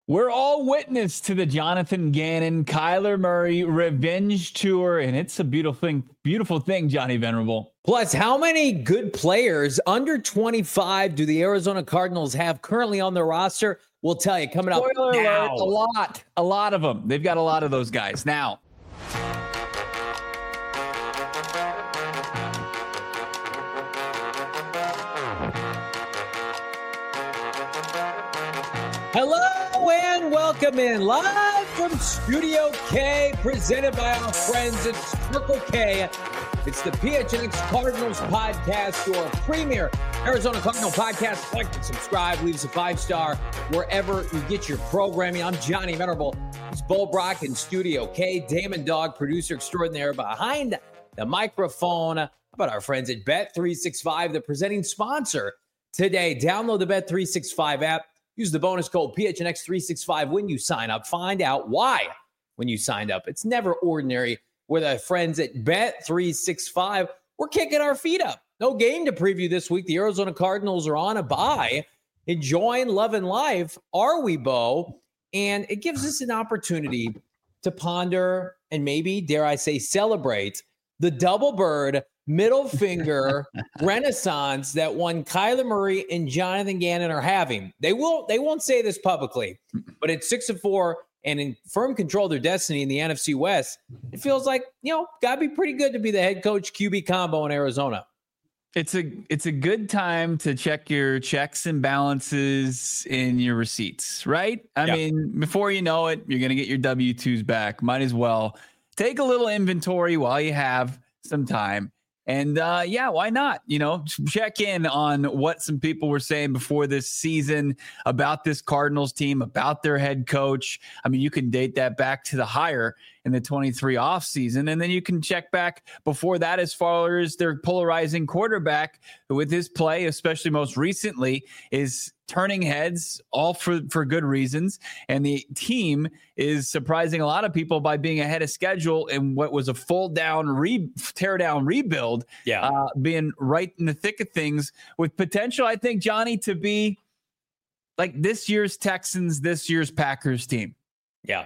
We're all witness to the Jonathan Gannon, Kyler Murray revenge tour, and it's a beautiful thing, Johnny Venerable. Plus, how many good players under 25 do the Arizona Cardinals have currently on their roster? We'll tell you coming up now. A lot of them. They've got a lot of those guys now. Hello and welcome in live from Studio K, presented by our friends at Circle K. It's the PHNX Cardinals podcast, your premier Arizona Cardinal podcast. Like and subscribe, leave us a 5-star wherever you get your programming. I'm Johnny Venerable. It's Bo Brock in Studio K, Damon Dog, producer extraordinaire behind the microphone. How about our friends at Bet365, the presenting sponsor today? Download the Bet365 app. Use the bonus code PHNX365 when you sign up. Find out why when you signed up. It's never ordinary with our friends at Bet365. We're kicking our feet up. No game to preview this week. The Arizona Cardinals are on a bye, enjoying love and life. Are we, Bo? And it gives us an opportunity to ponder and maybe, dare I say, celebrate the double bird middle finger renaissance that one Kyler Murray and Jonathan Gannon are having. They won't say this publicly, but at 6-4 and in firm control of their destiny in the NFC West, it feels like, gotta be pretty good to be the head coach QB combo in Arizona. It's a good time to check your checks and balances in your receipts, right? I mean, before you know it, you're going to get your W-2s back. Might as well take a little inventory while you have some time. And why not? Check in on what some people were saying before this season about this Cardinals team, about their head coach. I mean, you can date that back to the hire in the 23 offseason. And then you can check back before that as far as their polarizing quarterback with his play, especially most recently, is turning heads, all for good reasons. And the team is surprising a lot of people by being ahead of schedule in what was a tear down rebuild, being right in the thick of things with potential, I think, Johnny, to be like this year's Texans, this year's Packers team. Yeah.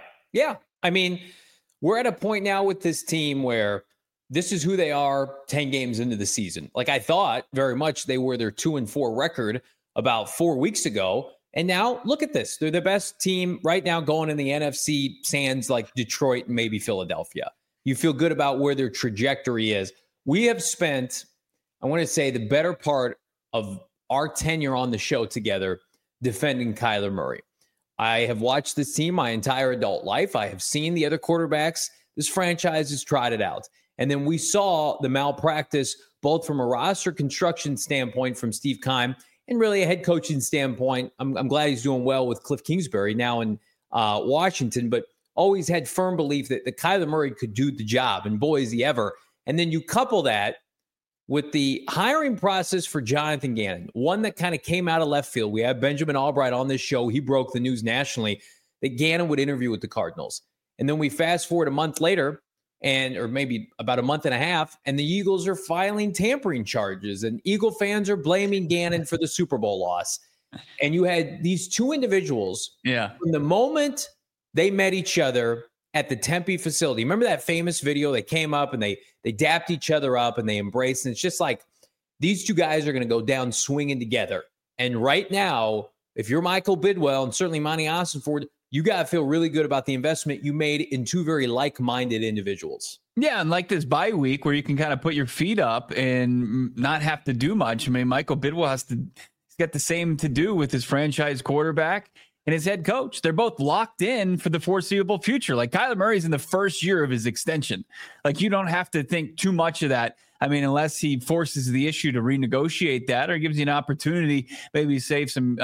I mean, we're at a point now with this team where this is who they are 10 games into the season. Like I thought very much they were their 2-4 record about 4 weeks ago. And now look at this. They're the best team right now going in the NFC, sans like Detroit and maybe Philadelphia. You feel good about where their trajectory is. We have spent, I want to say, the better part of our tenure on the show together defending Kyler Murray. I have watched this team my entire adult life. I have seen the other quarterbacks. This franchise has tried it out. And then we saw the malpractice, both from a roster construction standpoint from Steve Keim and really a head coaching standpoint. I'm glad he's doing well with Cliff Kingsbury now in Washington, but always had firm belief that Kyler Murray could do the job, and boy, is he ever. And then you couple that with the hiring process for Jonathan Gannon, one that kind of came out of left field. We have Benjamin Albright on this show. He broke the news nationally that Gannon would interview with the Cardinals. And then we fast forward a month later, or maybe about a month and a half, and the Eagles are filing tampering charges, and Eagle fans are blaming Gannon for the Super Bowl loss. And you had these two individuals from the moment they met each other at the Tempe facility. Remember that famous video? They came up and they dapped each other up and they embraced. And it's just like these two guys are going to go down swinging together. And right now, if you're Michael Bidwell and certainly Monty Ossenford, you got to feel really good about the investment you made in two very like-minded individuals. Yeah, and like this bye week where you can kind of put your feet up and not have to do much. I mean, Michael Bidwell he's got the same to do with his franchise quarterback and his head coach. They're both locked in for the foreseeable future. Like Kyler Murray's in the first year of his extension. Like you don't have to think too much of that. I mean, unless he forces the issue to renegotiate that or gives you an opportunity, maybe save some,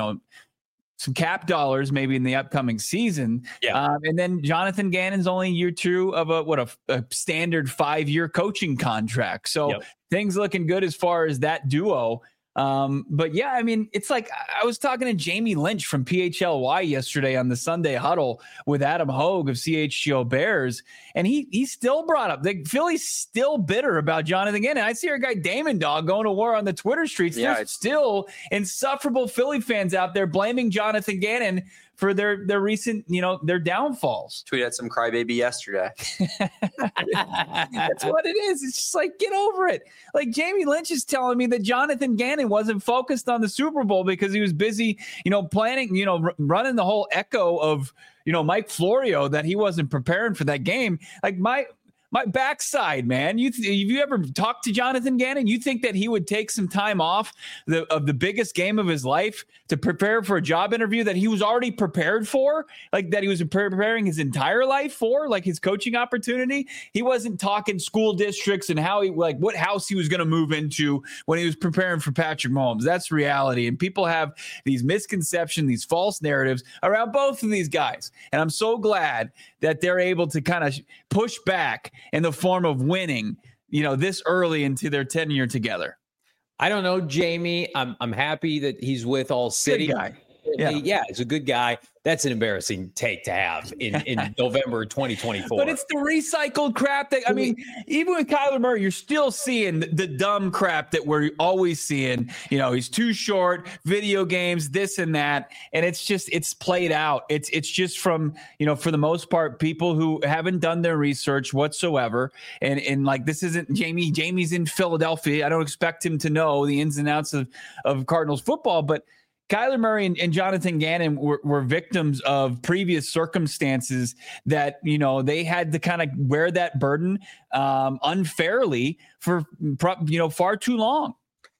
some cap dollars maybe in the upcoming season. And then Jonathan Gannon's only year two of a standard 5-year coaching contract. So things looking good as far as that duo. But yeah, I mean, it's like I was talking to Jamie Lynch from PHLY yesterday on the Sunday Huddle with Adam Hogue of CHGO Bears, and he still brought up that Philly's still bitter about Jonathan Gannon. I see our guy Damon Dog going to war on the Twitter streets. There's still insufferable Philly fans out there blaming Jonathan Gannon for their recent, their downfalls. Tweeted some crybaby yesterday. That's what it is. It's just like, get over it. Like Jamie Lynch is telling me that Jonathan Gannon wasn't focused on the Super Bowl because he was busy, planning, running the whole echo of, Mike Florio, that he wasn't preparing for that game. Like my backside, man. Have you ever talked to Jonathan Gannon? You think that he would take some time off of the biggest game of his life to prepare for a job interview that he was already prepared for, like that he was preparing his entire life for, like his coaching opportunity? He wasn't talking school districts and how what house he was going to move into when he was preparing for Patrick Mahomes. That's reality. And people have these misconceptions, these false narratives around both of these guys. And I'm so glad that they're able to kind of push back in the form of winning, this early into their tenure together. I don't know, Jamie. I'm happy that he's with All City. Good guy. Yeah, he's a good guy. That's an embarrassing take to have in November 2024. But it's the recycled crap that, even with Kyler Murray, you're still seeing the dumb crap that we're always seeing. He's too short, video games, this and that. And it's played out. It's just from, for the most part, people who haven't done their research whatsoever. And like, this isn't Jamie. Jamie's in Philadelphia. I don't expect him to know the ins and outs of Cardinals football, but Kyler Murray and Jonathan Gannon were victims of previous circumstances that, they had to kind of wear that burden unfairly for, far too long.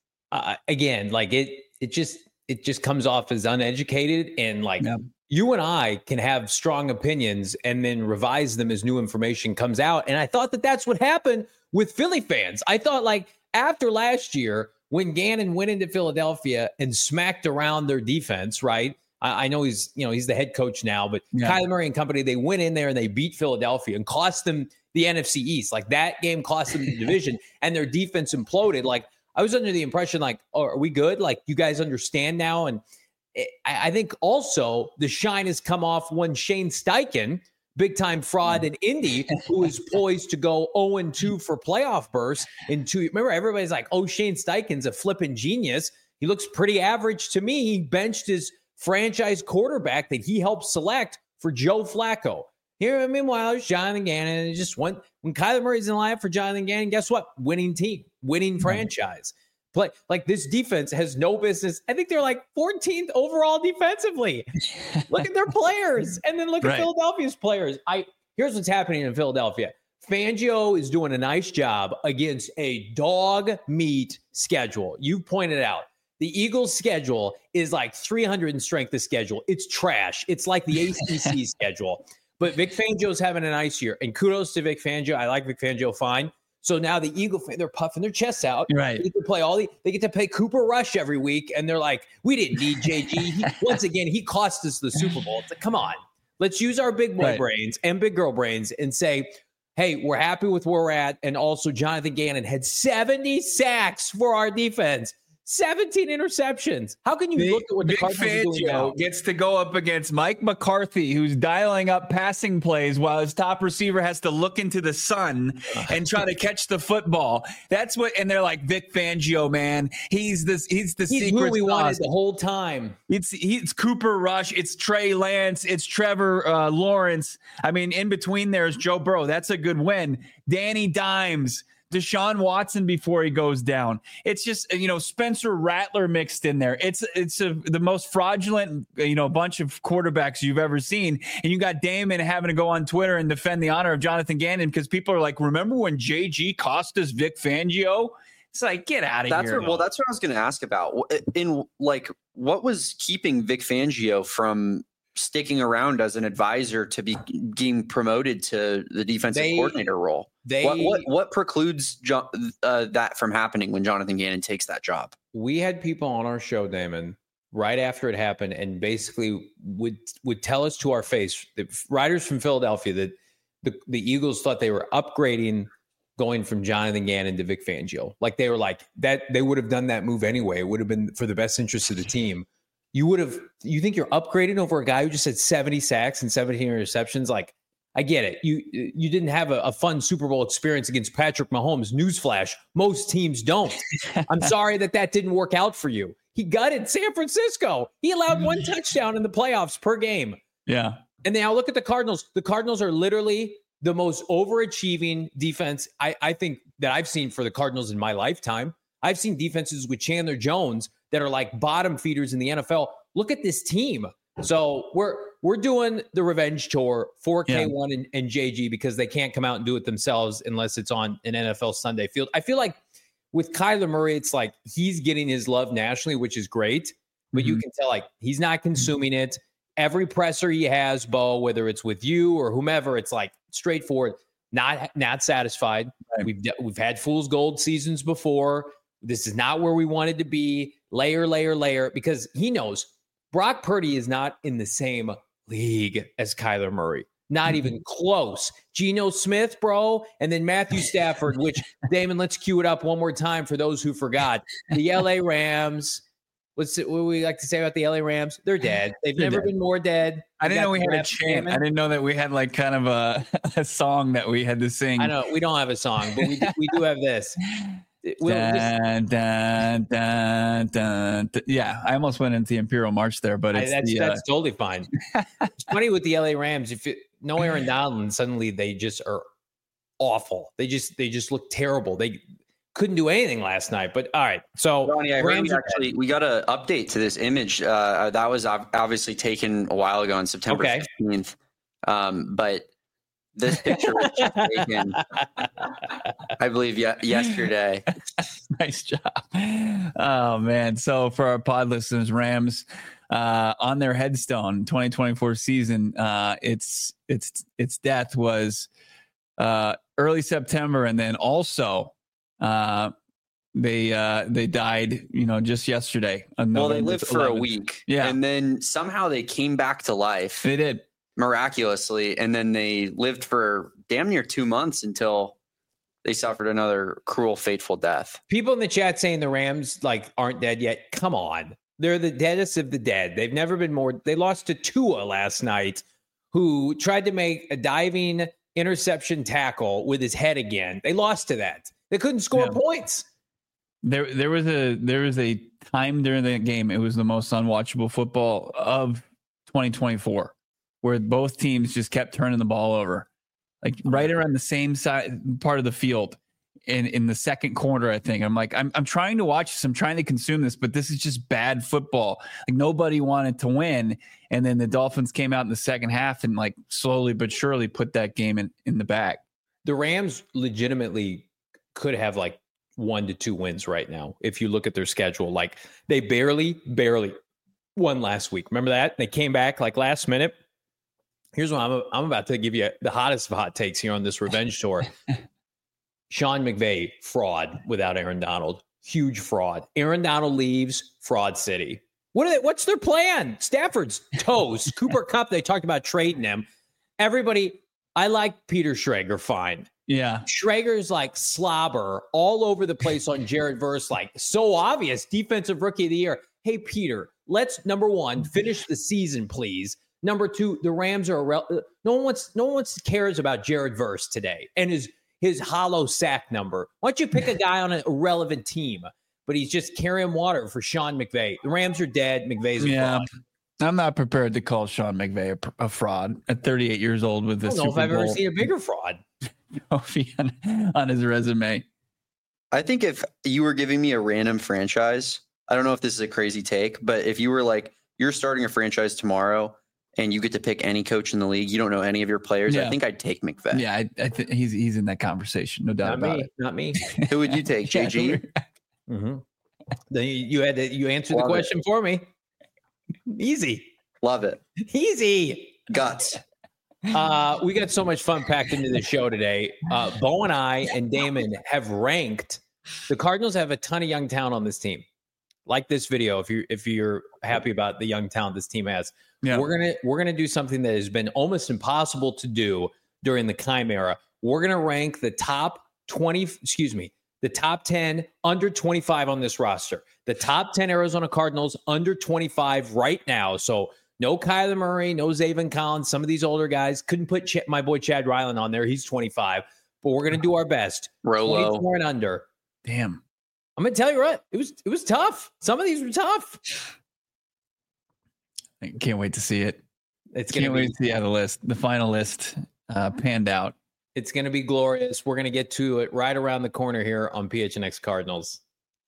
Again, like it just comes off as uneducated, and like you and I can have strong opinions and then revise them as new information comes out. And I thought that that's what happened with Philly fans. I thought, like, after last year, when Gannon went into Philadelphia and smacked around their defense, right? I know he's the head coach now, but Kyler Murray and company, they went in there and they beat Philadelphia and cost them the NFC East. Like, that game cost them the division, and their defense imploded. Like, I was under the impression, like, oh, are we good? Like, you guys understand now? And I think also the shine has come off when Shane Steichen, big-time fraud in Indy, who is poised to go 0-2 for playoff bursts in 2. Remember, everybody's like, oh, Shane Steichen's a flipping genius. He looks pretty average to me. He benched his franchise quarterback that he helped select for Joe Flacco. Here, meanwhile, there's Jonathan Gannon. And it just went, when Kyler Murray's in line for Jonathan Gannon, guess what? Winning team, winning franchise. Play, like, this defense has no business. I think they're like 14th overall defensively. Look at their players, and then look at Philadelphia's players. Here's what's happening in Philadelphia. Fangio is doing a nice job against a dog meat schedule. You pointed out the Eagles' schedule is like 300 in strength of schedule. It's trash. It's like the ACC schedule. But Vic Fangio's having a nice year, and kudos to Vic Fangio. I like Vic Fangio fine. So now the Eagle, they're puffing their chests out. Right. They get to play they get to play Cooper Rush every week, and they're like, we didn't need JG. Once again, he cost us the Super Bowl. It's like, come on, let's use our big boy brains and big girl brains and say, hey, we're happy with where we're at. And also, Jonathan Gannon had 70 sacks for our defense. 17 interceptions. How can you look at what the Cardinals are doing now? Gets to go up against Mike McCarthy, who's dialing up passing plays while his top receiver has to look into the sun and try to catch the football. That's what, and they're like, Vic Fangio, man, he's the secret who we sauce. Wanted the whole time. It's Cooper Rush, it's Trey Lance, it's Trevor Lawrence. I mean, in between there's Joe Burrow. That's a good win. Danny Dimes, Deshaun Watson before he goes down. It's just, Spencer Rattler mixed in there. It's the most fraudulent, bunch of quarterbacks you've ever seen. And you got Damon having to go on Twitter and defend the honor of Jonathan Gannon because people are like, remember when JG cost us Vic Fangio? It's like, get out of here. That's what I was going to ask about. What was keeping Vic Fangio from sticking around as an advisor to be being promoted to the defensive coordinator role? What precludes that from happening when Jonathan Gannon takes that job? We had people on our show, Damon, right after it happened, and basically would tell us to our face, the writers from Philadelphia, that the Eagles thought they were upgrading going from Jonathan Gannon to Vic Fangio. Like, they were like that. They would have done that move anyway. It would have been for the best interest of the team. You think you're upgrading over a guy who just had 70 sacks and 17 interceptions? Like, I get it. You didn't have a fun Super Bowl experience against Patrick Mahomes. Newsflash, most teams don't. I'm sorry that didn't work out for you. He gutted San Francisco. He allowed 1 touchdown in the playoffs per game. Yeah. And now look at the Cardinals. The Cardinals are literally the most overachieving defense I think that I've seen for the Cardinals in my lifetime. I've seen defenses with Chandler Jones that are like bottom feeders in the NFL. Look at this team. So we're doing the revenge tour for K1 and JG because they can't come out and do it themselves unless it's on an NFL Sunday field. I feel like with Kyler Murray, it's like he's getting his love nationally, which is great, but you can tell like he's not consuming it. Every presser he has, Bo, whether it's with you or whomever, it's like straightforward, not satisfied. Right. We've had fool's gold seasons before. This is not where we wanted to be. Layer, because he knows Brock Purdy is not in the same league as Kyler Murray. Not even close. Geno Smith, bro, and then Matthew Stafford, which, Damon, let's cue it up one more time for those who forgot. The LA Rams. What we like to say about the LA Rams? They're dead. They've never been more dead. I didn't know we had a chant. I didn't know that we had like kind of a song that we had to sing. I know we don't have a song, but we do have this. Dun, dun, dun, dun. Yeah, I almost went into the Imperial March there, but that's totally fine. It's funny with the LA Rams. If no Aaron Donald, suddenly they just are awful. They just look terrible. They couldn't do anything last night. But all right, so Ronnie, I heard we got an update to this image that was obviously taken a while ago on September 15th. But this picture was just taken, I believe, yesterday. Nice job. Oh, man. So for our pod listeners, Rams on their headstone 2024 season, its death was early September. And then also they died, just yesterday. Well, they lived for 11th. A week. Yeah. And then somehow they came back to life. They did. Miraculously, and then they lived for damn near 2 months until they suffered another cruel, fateful death. People in the chat saying the Rams aren't dead yet. Come on, they're the deadest of the dead. They've never been more. They lost to Tua last night, who tried to make a diving interception tackle with his head again. They lost to that. They couldn't score points. There was a time during the game. It was the most unwatchable football of 2024. Where both teams just kept turning the ball over, like right around the same side part of the field in the second quarter, I think. I'm trying to watch this. I'm trying to consume this, but this is just bad football. Like nobody wanted to win. And then the Dolphins came out in the second half and like slowly but surely put that game in the bag. The Rams legitimately could have like 1 to 2 wins right now. If you look at their schedule, like they barely won last week. Remember that? They came back like last minute. Here's what I'm about to give you the hottest of hot takes here on this revenge tour. Sean McVay, fraud without Aaron Donald. Huge fraud. Aaron Donald leaves, fraud city. What's their plan? Stafford's toast. Cooper Kupp, they talked about trading him. Everybody, I like Peter Schrager fine. Yeah. Schrager's like slobber all over the place on Jared Verse, like so obvious. Defensive rookie of the year. Hey, Peter, let's, number one, finish the season, please. Number two, the Rams are no one cares about Jared Verse today and his hollow sack number. Why don't you pick a guy on an irrelevant team? But he's just carrying water for Sean McVay. The Rams are dead. McVay's a fraud. I'm not prepared to call Sean McVay a fraud at 38 years old with this. I don't know if I've ever seen a bigger fraud trophy on his resume. I think if you were giving me a random franchise, I don't know if this is a crazy take, but if you were like, you're starting a franchise tomorrow and you get to pick any coach in the league, you don't know any of your players, I think I'd take McVay. Yeah, I think he's in that conversation, no doubt about it. Not me. Who would you take, JG? Mm-hmm. Then you answered the question for me. Easy. Love it. Easy. Guts. We got so much fun packed into the show today. Bo and I and Damon have ranked. The Cardinals have a ton of young talent on this team. Like this video, if you're happy about the young talent this team has. Yeah. We're gonna do something that has been almost impossible to do during the Keim era. We're gonna rank the top 10 under 25 on this roster. The top 10 Arizona Cardinals under 25 right now. So no Kyler Murray, no Zaven Collins. Some of these older guys couldn't put my boy Chad Ryland on there. He's 25, but we're gonna do our best. Rolo. 24 and under. Damn. I'm going to tell you what, it was tough. Some of these were tough. I can't wait to see it. Can't wait to see how the final list panned out. It's going to be glorious. We're going to get to it right around the corner here on PHNX Cardinals.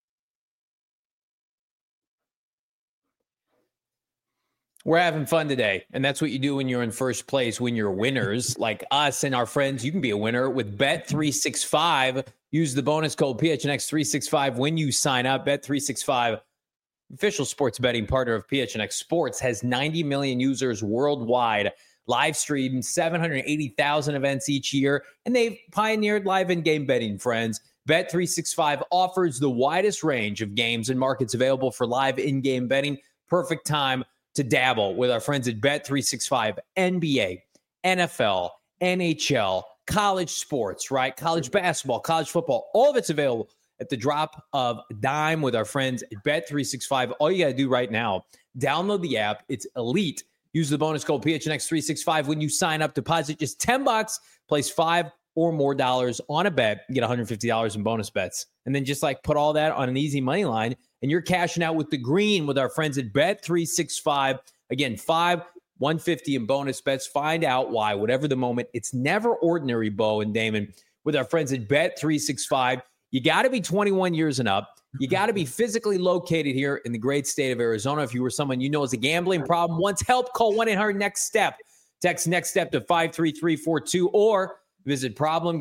We're having fun today, and that's what you do when you're in first place, when you're winners like us and our friends. You can be a winner with Bet365. Use the bonus code PHNX365 when you sign up. Bet365, official sports betting partner of PHNX Sports, has 90 million users worldwide, live streamed 780,000 events each year, and they've pioneered live in-game betting, friends. Bet365 offers the widest range of games and markets available for live in-game betting. Perfect time to dabble with our friends at Bet365. NBA, NFL, NHL, college sports, right? College basketball, college football, all of it's available at the drop of a dime with our friends at Bet365. All you got to do right now, download the app. It's elite. Use the bonus code PHNX365 when you sign up. Deposit just $10, place $5 or more on a bet, you get $150 in bonus bets. And then just like put all that on an easy money line, and you're cashing out with the green with our friends at Bet365. Again, $5, $150 in bonus bets. Find out why, whatever the moment. It's never ordinary, Bo and Damon, with our friends at Bet365. You got to be 21 years and up. You got to be physically located here in the great state of Arizona. If you were someone you know has a gambling problem, wants help, call 1-800-NEXT-STEP. Text NEXT STEP to 53342 or visit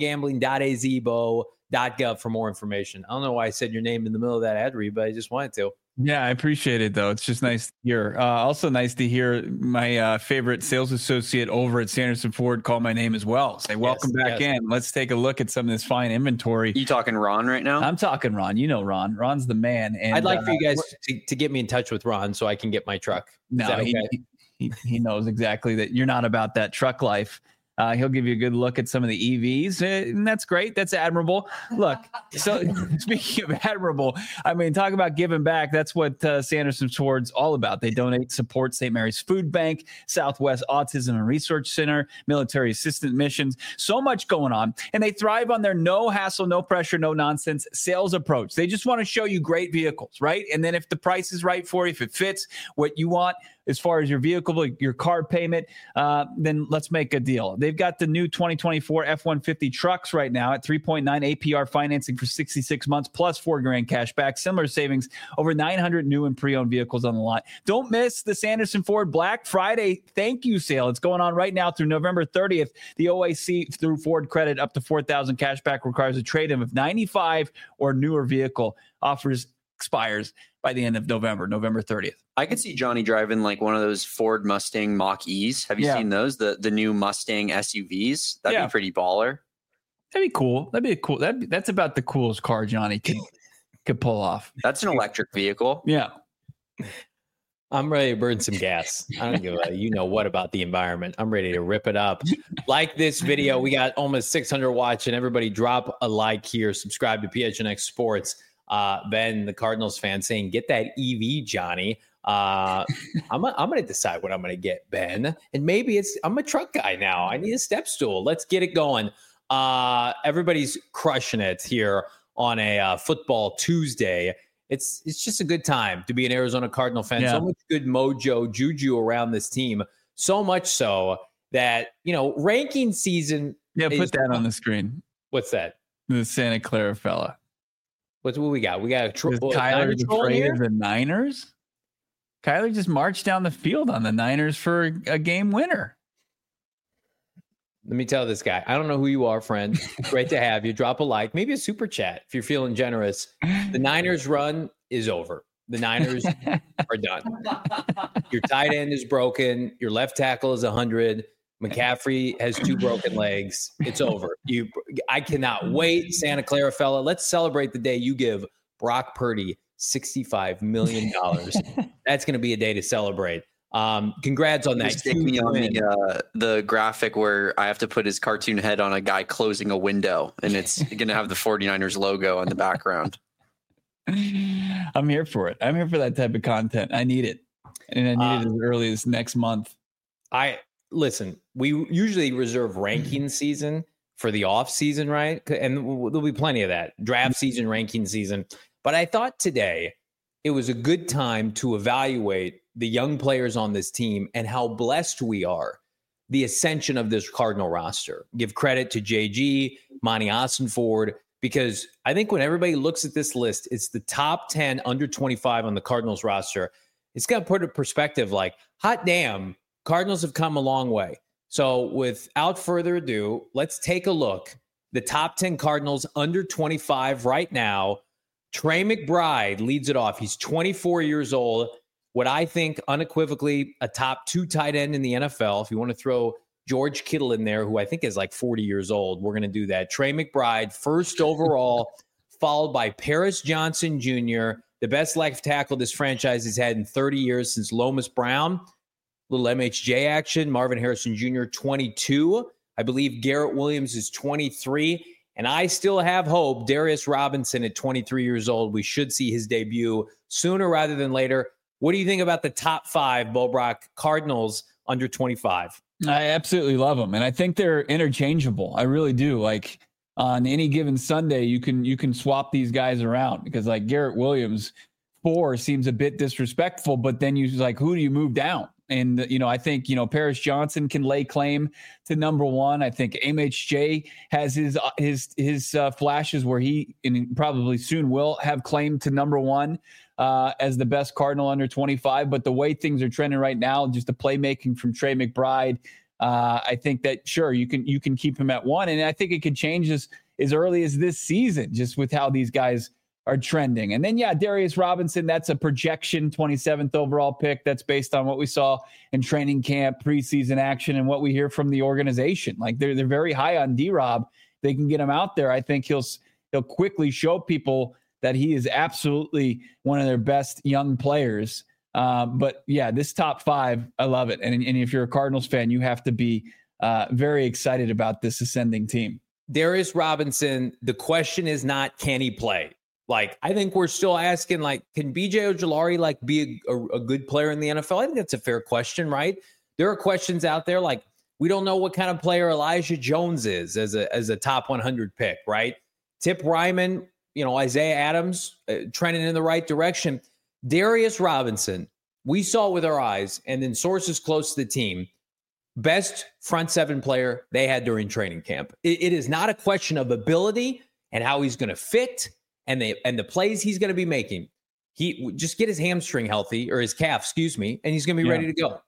problemgamblingazbo.gov for more information. I don't know why I said your name in the middle of that ad read, but I just wanted to. Yeah, I appreciate it, though. It's just nice to hear. Also nice to hear my favorite sales associate over at Sanderson Ford call my name as well. Say, welcome back in. Let's take a look at some of this fine inventory. You talking Ron right now? I'm talking Ron. You know Ron. Ron's the man. And I'd like for you guys to get me in touch with Ron so I can get my truck. No, okay? he knows exactly that you're not about that truck life. He'll give you a good look at some of the EVs, and that's great. That's admirable. Look, so speaking of admirable, I mean, talk about giving back. That's what Sanderson Ford's all about. They donate, support St. Mary's Food Bank, Southwest Autism and Research Center, military assistant missions, so much going on. And they thrive on their no hassle, no pressure, no nonsense sales approach. They just want to show you great vehicles, right? And then if the price is right for you, if it fits what you want, as far as your vehicle, your car payment, then let's make a deal. They've got the new 2024 F-150 trucks right now at 3.9 APR financing for 66 months plus $4,000 cash back. Similar savings, over 900 new and pre-owned vehicles on the lot. Don't miss the Sanderson Ford Black Friday thank you sale. It's going on right now through November 30th. The OAC through Ford Credit up to $4,000 cash back requires a trade-in of 95 or newer vehicle. Offers expires by the end of November 30th. I could see Johnny driving like one of those Ford Mustang Mach-E's. Have you seen those? The new Mustang SUVs? That'd be pretty baller. That'd be cool. That's about the coolest car Johnny could pull off. That's an electric vehicle. Yeah. I'm ready to burn some gas. I don't give a you know what about the environment. I'm ready to rip it up. Like this video. We got almost 600 watching. Everybody drop a like here. Subscribe to PHNX Sports. Ben, the Cardinals fan, saying, get that EV, Johnny. I'm going to decide what I'm going to get, Ben. And maybe I'm a truck guy now. I need a step stool. Let's get it going. Everybody's crushing it here on a football Tuesday. It's just a good time to be an Arizona Cardinal fan. Yeah. So much good mojo, juju around this team. So much so that, ranking season. Yeah, put that on the screen. What's that? The Santa Clara fella. What we got? We got a Kyler afraid of the Niners? Kyler just marched down the field on the Niners for a game winner. Let me tell this guy. I don't know who you are, friend. Great to have you. Drop a like, maybe a super chat if you're feeling generous. The Niners run is over. The Niners are done. Your tight end is broken. Your left tackle is 100. McCaffrey has 2 broken legs. It's over. I cannot wait, Santa Clara fella. Let's celebrate the day you give Brock Purdy $65 million. That's going to be a day to celebrate. Congrats on that. Stick me on the graphic where I have to put his cartoon head on a guy closing a window, and it's going to have the 49ers logo on the background. I'm here for it. I'm here for that type of content. I need it. And I need it as early as next month. Listen, we usually reserve ranking season for the off season, right? And there'll be plenty of that draft season, ranking season. But I thought today it was a good time to evaluate the young players on this team and how blessed we are. The ascension of this Cardinal roster. Give credit to JG, Monty Ossenford, because I think when everybody looks at this list, it's the top 10 under 25 on the Cardinals roster. It's going to put in perspective like, hot damn, Cardinals have come a long way. So without further ado, let's take a look. The top 10 Cardinals under 25 right now. Trey McBride leads it off. He's 24 years old. What I think unequivocally a top 2 tight end in the NFL. If you want to throw George Kittle in there, who I think is like 40 years old, we're going to do that. Trey McBride, first overall, followed by Paris Johnson Jr., the best left tackle this franchise has had in 30 years since Lomas Brown. Little MHJ action. Marvin Harrison Jr., 22. I believe Garrett Williams is 23. And I still have hope. Darius Robinson at 23 years old. We should see his debut sooner rather than later. What do you think about the top 5, Bo Brock, Cardinals under 25? I absolutely love them. And I think they're interchangeable. I really do. Like on any given Sunday, you can swap these guys around because like Garrett Williams, 4 seems a bit disrespectful, but then you like, who do you move down? And, I think, Paris Johnson can lay claim to number 1. I think MHJ has his flashes where he and probably soon will have claim to number 1 as the best Cardinal under 25. But the way things are trending right now, just the playmaking from Trey McBride, I think that, sure, you can keep him at 1. And I think it could change as early as this season, just with how these guys are trending. And then, Darius Robinson, that's a projection 27th overall pick. That's based on what we saw in training camp, preseason action, and what we hear from the organization. Like they're very high on D-Rob. They can get him out there. I think he'll quickly show people that he is absolutely one of their best young players. But this top 5, I love it. And if you're a Cardinals fan, you have to be very excited about this ascending team. Darius Robinson, the question is not, can he play? Like, I think we're still asking, like, can BJ Ojulari, be a good player in the NFL? I think that's a fair question, right? There are questions out there, like, we don't know what kind of player Elijah Jones is as a top 100 pick, right? Tip Ryman, Isaiah Adams, trending in the right direction. Darius Robinson, we saw with our eyes, and then sources close to the team, best front 7 player they had during training camp. It is not a question of ability and how he's going to fit and the plays he's going to be making. He just get his hamstring healthy, or his calf, excuse me, and he's going to be ready to go.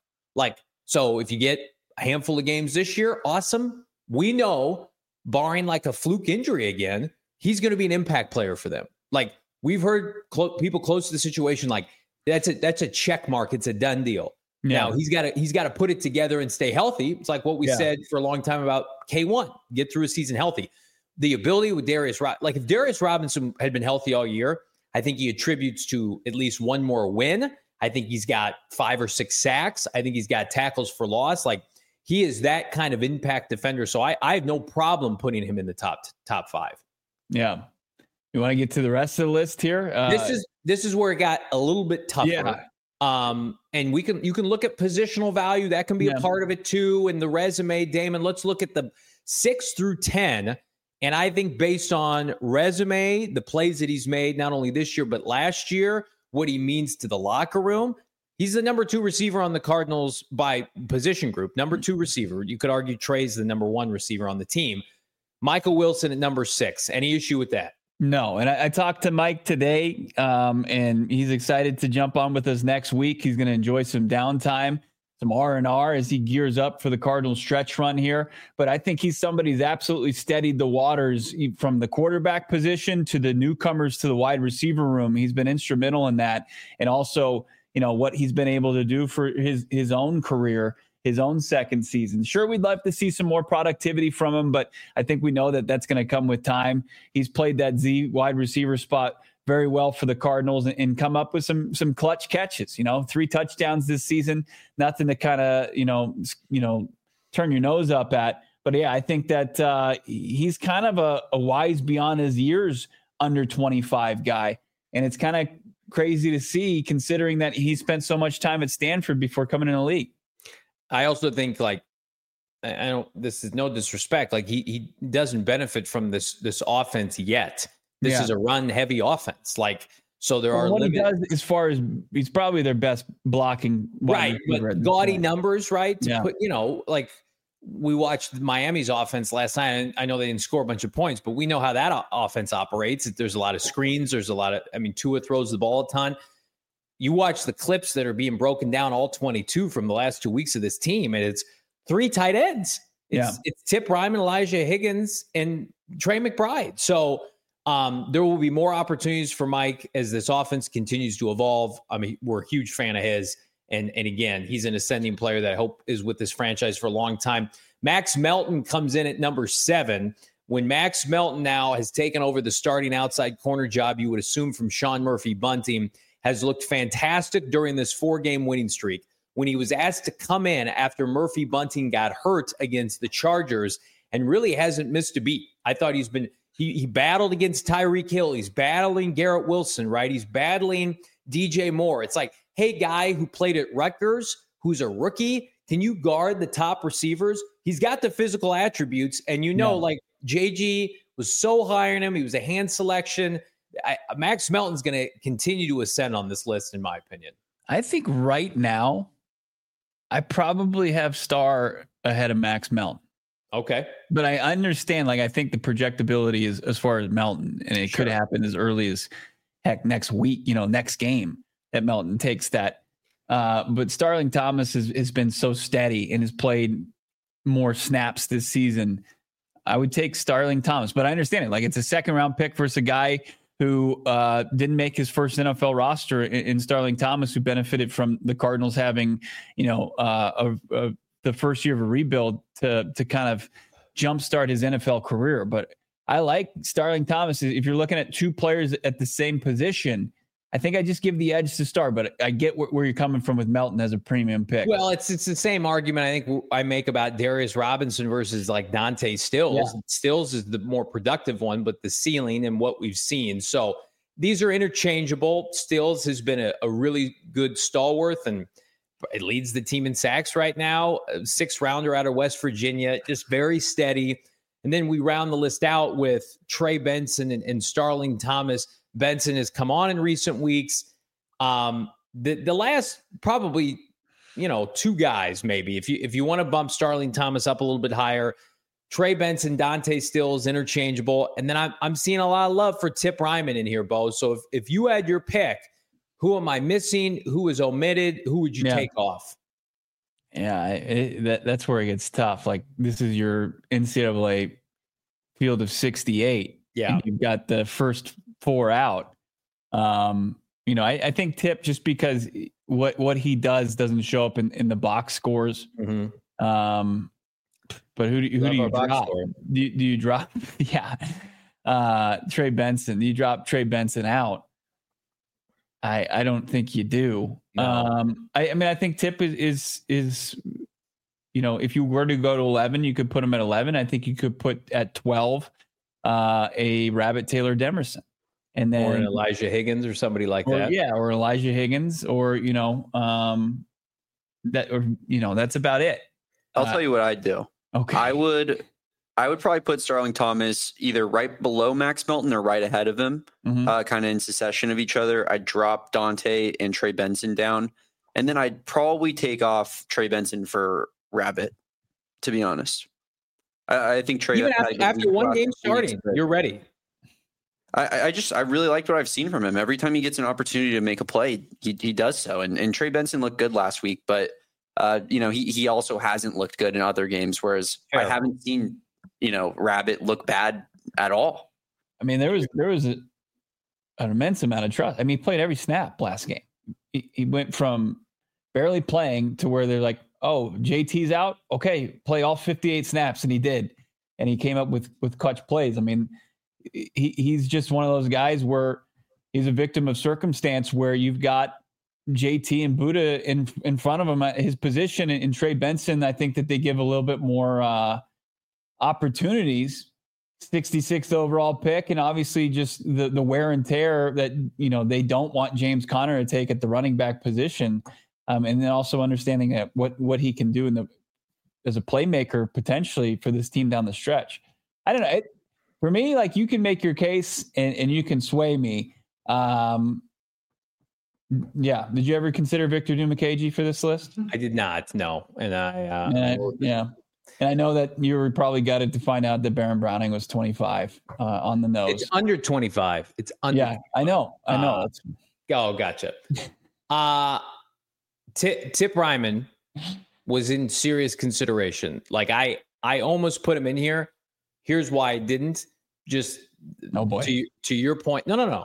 So if you get a handful of games this year, awesome. We know, barring like a fluke injury again, he's going to be an impact player for them. Like we've heard people close to the situation, like that's a check mark. It's a done deal. Yeah. Now he's got to put it together and stay healthy. It's like what we said for a long time about K1, get through a season healthy. The ability with if Darius Robinson had been healthy all year, I think he attributes to at least one more win. I think he's got 5 or 6 sacks. I think he's got tackles for loss. Like he is that kind of impact defender. So I have no problem putting him in the top 5. Yeah. You want to get to the rest of the list here? This is where it got a little bit tougher. Yeah. And you can look at positional value. That can be a part of it too. And the resume, Damon, let's look at the 6 through 10. And I think based on resume, the plays that he's made, not only this year, but last year, what he means to the locker room, he's the number 2 receiver on the Cardinals by position group. Number 2 receiver. You could argue Trey's the number 1 receiver on the team. Michael Wilson at number 6. Any issue with that? No. And I talked to Mike today, and he's excited to jump on with us next week. He's going to enjoy some downtime, some R&R as he gears up for the Cardinals stretch run here. But I think he's somebody who's absolutely steadied the waters from the quarterback position to the newcomers to the wide receiver room. He's been instrumental in that. And also, what he's been able to do for his own career, his own second season. Sure, we'd love to see some more productivity from him, but I think we know that that's going to come with time. He's played that Z wide receiver spot very well for the Cardinals and come up with some clutch catches, 3 touchdowns this season, nothing to kind of, turn your nose up at. But yeah, I think that he's kind of a wise beyond his years under 25 guy. And it's kind of crazy to see considering that he spent so much time at Stanford before coming in the league. I also think this is no disrespect. Like he doesn't benefit from this offense yet. This is a run-heavy offense. So there are what limits. He does as far as he's probably their best blocking. Right. But gaudy numbers, right? To put, we watched Miami's offense last night, and I know they didn't score a bunch of points, but we know how that offense operates. There's a lot of screens. There's a lot of, Tua throws the ball a ton. You watch the clips that are being broken down, all 22 from the last 2 weeks of this team, and it's 3 tight ends. It's Tip Ryman, Elijah Higgins, and Trey McBride. So there will be more opportunities for Mike as this offense continues to evolve. We're a huge fan of his. And again, he's an ascending player that I hope is with this franchise for a long time. Max Melton comes in at number 7. When Max Melton now has taken over the starting outside corner job, you would assume from Sean Murphy-Bunting, has looked fantastic during this 4-game winning streak. When he was asked to come in after Murphy-Bunting got hurt against the Chargers and really hasn't missed a beat. I thought he battled against Tyreek Hill. He's battling Garrett Wilson, right? He's battling DJ Moore. It's like, hey, guy who played at Rutgers, who's a rookie, can you guard the top receivers? He's got the physical attributes. And JG was so high on him. He was a hand selection. Max Melton's going to continue to ascend on this list, in my opinion. I think right now, I probably have Star ahead of Max Melton. Okay. But I understand, I think the projectability is as far as Melton, and it could happen as early as heck next week, next game that Melton takes that. But Starling Thomas has been so steady and has played more snaps this season. I would take Starling Thomas, but I understand it. It's a 2nd-round pick versus a guy who didn't make his first NFL roster in Starling Thomas, who benefited from the Cardinals having, the first year of a rebuild to kind of jumpstart his NFL career. But I like Starling Thomas. If you're looking at 2 players at the same position, I think I just give the edge to Star, but I get where you're coming from with Melton as a premium pick. Well, it's the same argument I think I make about Darius Robinson versus Dante Stills. Yeah. Stills is the more productive one, but the ceiling and what we've seen. So these are interchangeable. Stills has been a really good stalwart, and it leads the team in sacks right now. A 6th-rounder out of West Virginia, just very steady. And then we round the list out with Trey Benson and Starling Thomas. Benson has come on in recent weeks. The last probably, 2 guys, maybe, if you want to bump Starling Thomas up a little bit higher, Trey Benson, Dante Stills, interchangeable. And then I'm seeing a lot of love for Tip Ryman in here, Bo. So if you had your pick, who am I missing? Who is omitted? Who would you take off? Yeah, that's where it gets tough. This is your NCAA field of 68. Yeah. You've got the first 4 out. I think Tip, just because what he doesn't show up in the box scores. Mm-hmm. But who do you drop? Do you drop? Yeah. Trey Benson. Do you drop Trey Benson out? I don't think you do. No. I think Tip is if you were to go to 11, you could put him at 11. I think you could put at 12 a Rabbit Taylor Demerson. And then, or an Elijah Higgins or somebody like that. Yeah, or Elijah Higgins, or that's about it. I'll tell you what I'd do. Okay. I would probably put Starling Thomas either right below Max Melton or right ahead of him, kind of in succession of each other. I'd drop Dante and Trey Benson down, and then I'd probably take off Trey Benson for Rabbit, to be honest. I think Trey... Even after one game starting, you're ready. I really liked what I've seen from him. Every time he gets an opportunity to make a play, he does so. And Trey Benson looked good last week, but he also hasn't looked good in other games. Whereas I haven't seen Rabbit look bad at all. There was an immense amount of trust. He played every snap last game. He went from barely playing to where they're like, oh, JT's out. Okay, play all 58 snaps, and he did, and he came up with clutch plays. He's just one of those guys where he's a victim of circumstance, where you've got JT and Buddha in front of him at his position. And Trey Benson, I think that they give a little bit more opportunities. 66th overall pick, and obviously just the wear and tear that they don't want James Conner to take at the running back position, and then also understanding that what he can do as a playmaker potentially for this team down the stretch. I don't know. For me, like you can make your case and you can sway me. Yeah. Did you ever consider Victor Dimukeje for this list? I did not. No. And And I know that you were probably gutted to find out that Baron Browning was 25 on the nose. It's under 25. It's under. Yeah, 25. I know. Gotcha. Tip Ryman was in serious consideration. Like I almost put him in here. Here's why I didn't. Just to your point. No.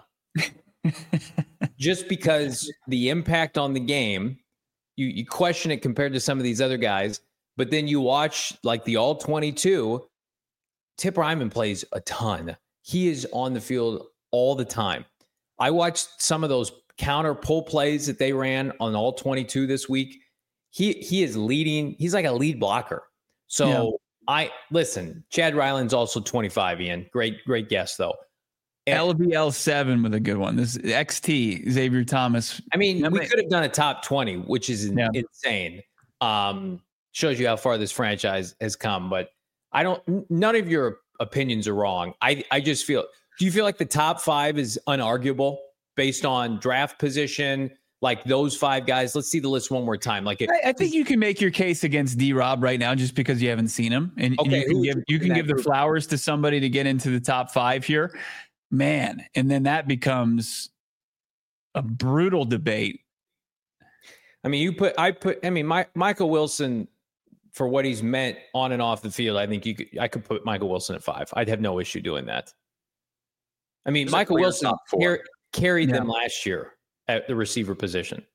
Just because the impact on the game, you question it compared to some of these other guys, but then you watch like the all 22. Tip Ryman plays a ton. He is on the field all the time. I watched some of those counter pull plays that they ran on all 22 this week. He is leading. He's like a lead blocker. So listen, Chad Ryland's also 25, Ian. Great guess though. LBL7 with a good one. This XT, Xavier Thomas. I mean, we could have done a top 20, which is insane. Shows you how far this franchise has come, but none of your opinions are wrong. I just feel, do you feel like the top 5 is unarguable based on draft position? Like those 5 guys, let's see the list one more time. Like I think you can make your case against D-Rob right now just because you haven't seen him. And you can give the flowers to somebody to get into the top 5 here. Man, and then that becomes a brutal debate. I mean, Michael Wilson, for what he's meant on and off the field, I think I could put Michael Wilson at 5. I'd have no issue doing that. I mean, Michael Wilson carried them last year at the receiver position.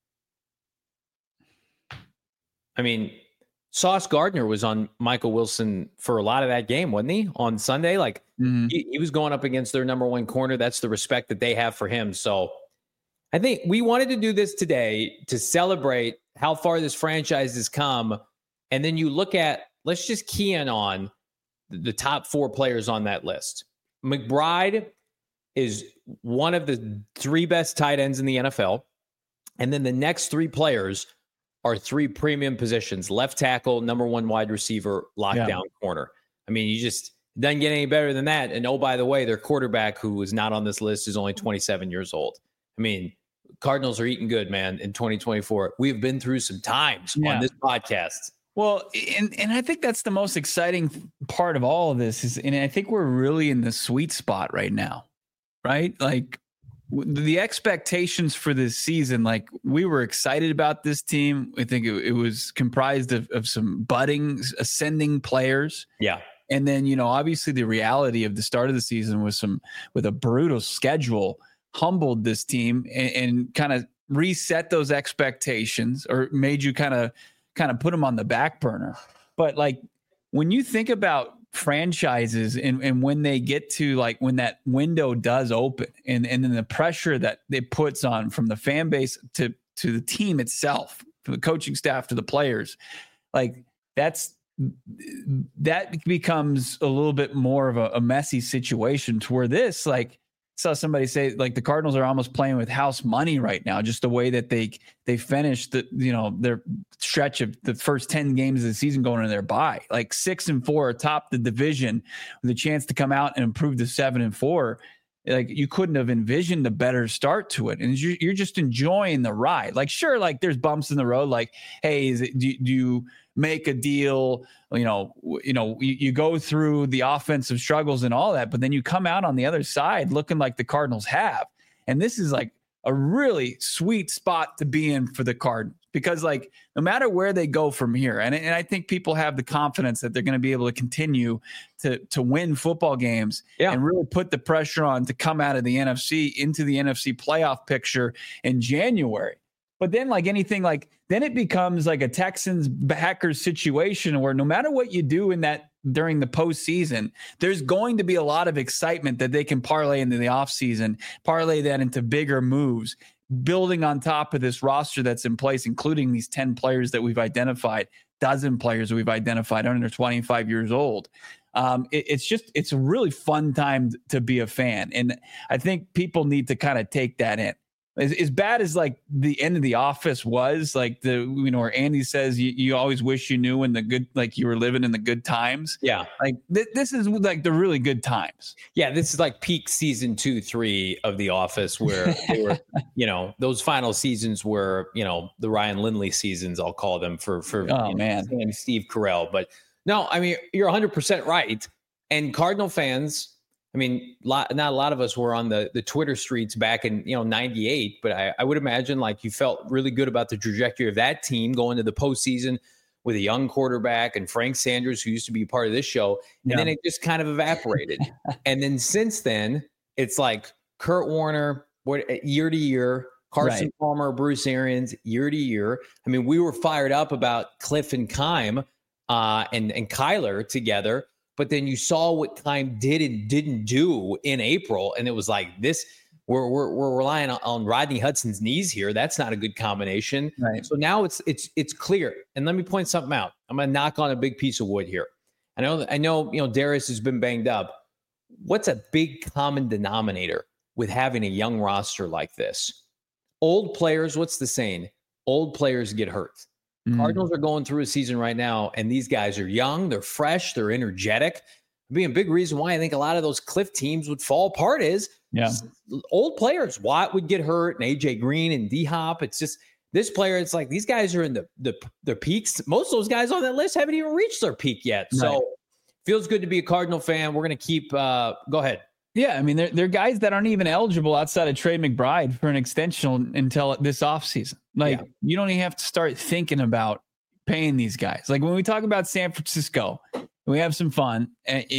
I mean, Sauce Gardner was on Michael Wilson for a lot of that game, wasn't he? On Sunday, like he was going up against their number 1 corner. That's the respect that they have for him. So I think we wanted to do this today to celebrate how far this franchise has come. And then you look at, let's just key in on the top 4 players on that list. McBride is one of the 3 best tight ends in the NFL. And then the next 3 players are 3 premium positions: left tackle, number 1 wide receiver, lockdown corner. I mean, you just doesn't get any better than that. And oh, by the way, their quarterback, who is not on this list, is only 27 years old. I mean, Cardinals are eating good, man, in 2024. We've been through some times on this podcast. Well, and I think that's the most exciting part of all of this and I think we're really in the sweet spot right now, right? Like the expectations for this season, like we were excited about this team. I think it was comprised of some budding, ascending players. Yeah. And then, obviously the reality of the start of the season with a brutal schedule humbled this team and kind of reset those expectations or made you kind of put them on the back burner. But like when you think about franchises and when they get to like when that window does open and then the pressure that it puts on from the fan base to the team itself, from the coaching staff to the players, like that becomes a little bit more of a messy situation to where this, like, saw somebody say like the Cardinals are almost playing with house money right now, just the way that they finished their stretch of the first 10 games of the season going into their bye, like 6-4 atop the division with a chance to come out and improve to 7-4. Like you couldn't have envisioned a better start to it. And you're just enjoying the ride. Like, sure, like there's bumps in the road. Like, hey, do you make a deal? You go through the offensive struggles and all that, but then you come out on the other side looking like the Cardinals have. And this is like a really sweet spot to be in for the Cardinals because like no matter where they go from here, and I think people have the confidence that they're going to be able to continue to win football games and really put the pressure on to come out of the NFC into the NFC playoff picture in January. But then like anything, like then it becomes like a Texans Packers situation where no matter what you do in that during the postseason, there's going to be a lot of excitement that they can parlay into the offseason, parlay that into bigger moves, building on top of this roster that's in place, including these 10 players that we've identified, dozen players we've identified under 25 years old. It's a really fun time to be a fan. And I think people need to kind of take that in. as bad as like the end of The Office was, like where Andy says you always wish you knew when the good, like you were living in the good times. Yeah. Like this is like the really good times. Yeah. This is like peak season 2, 3 of The Office, where they were, those final seasons were, the Ryan Lindley seasons, I'll call them for and Steve Carell. But no, I mean, you're 100% right. And Cardinal fans, I mean, not a lot of us were on the Twitter streets back in, 98, but I would imagine like you felt really good about the trajectory of that team going to the postseason with a young quarterback and Frank Sanders, who used to be part of this show. And then it just kind of evaporated. And then since then, it's like Kurt Warner, year to year, Carson Palmer, Bruce Arians, year to year. I mean, we were fired up about Cliff and Keim and Kyler together. But then you saw what Keim did and didn't do in April, and it was like this. We're relying on Rodney Hudson's knees here. That's not a good combination. Right. So now it's clear. And let me point something out. I'm going to knock on a big piece of wood here. I know. Darius has been banged up. What's a big common denominator with having a young roster like this? Old players. What's the saying? Old players get hurt. Cardinals are going through a season right now, and these guys are young, they're fresh, they're energetic. Being a big reason why I think a lot of those Cliff teams would fall apart is old players. Watt would get hurt, and AJ Green and D-Hop. It's just this player. It's like these guys are in their peaks. Most of those guys on that list haven't even reached their peak yet. So feels good to be a Cardinal fan. We're going to keep. Go ahead. Yeah, I mean, they're guys that aren't even eligible outside of Trey McBride for an extension until this offseason. Like, you don't even have to start thinking about paying these guys. Like, when we talk about San Francisco, we have some fun,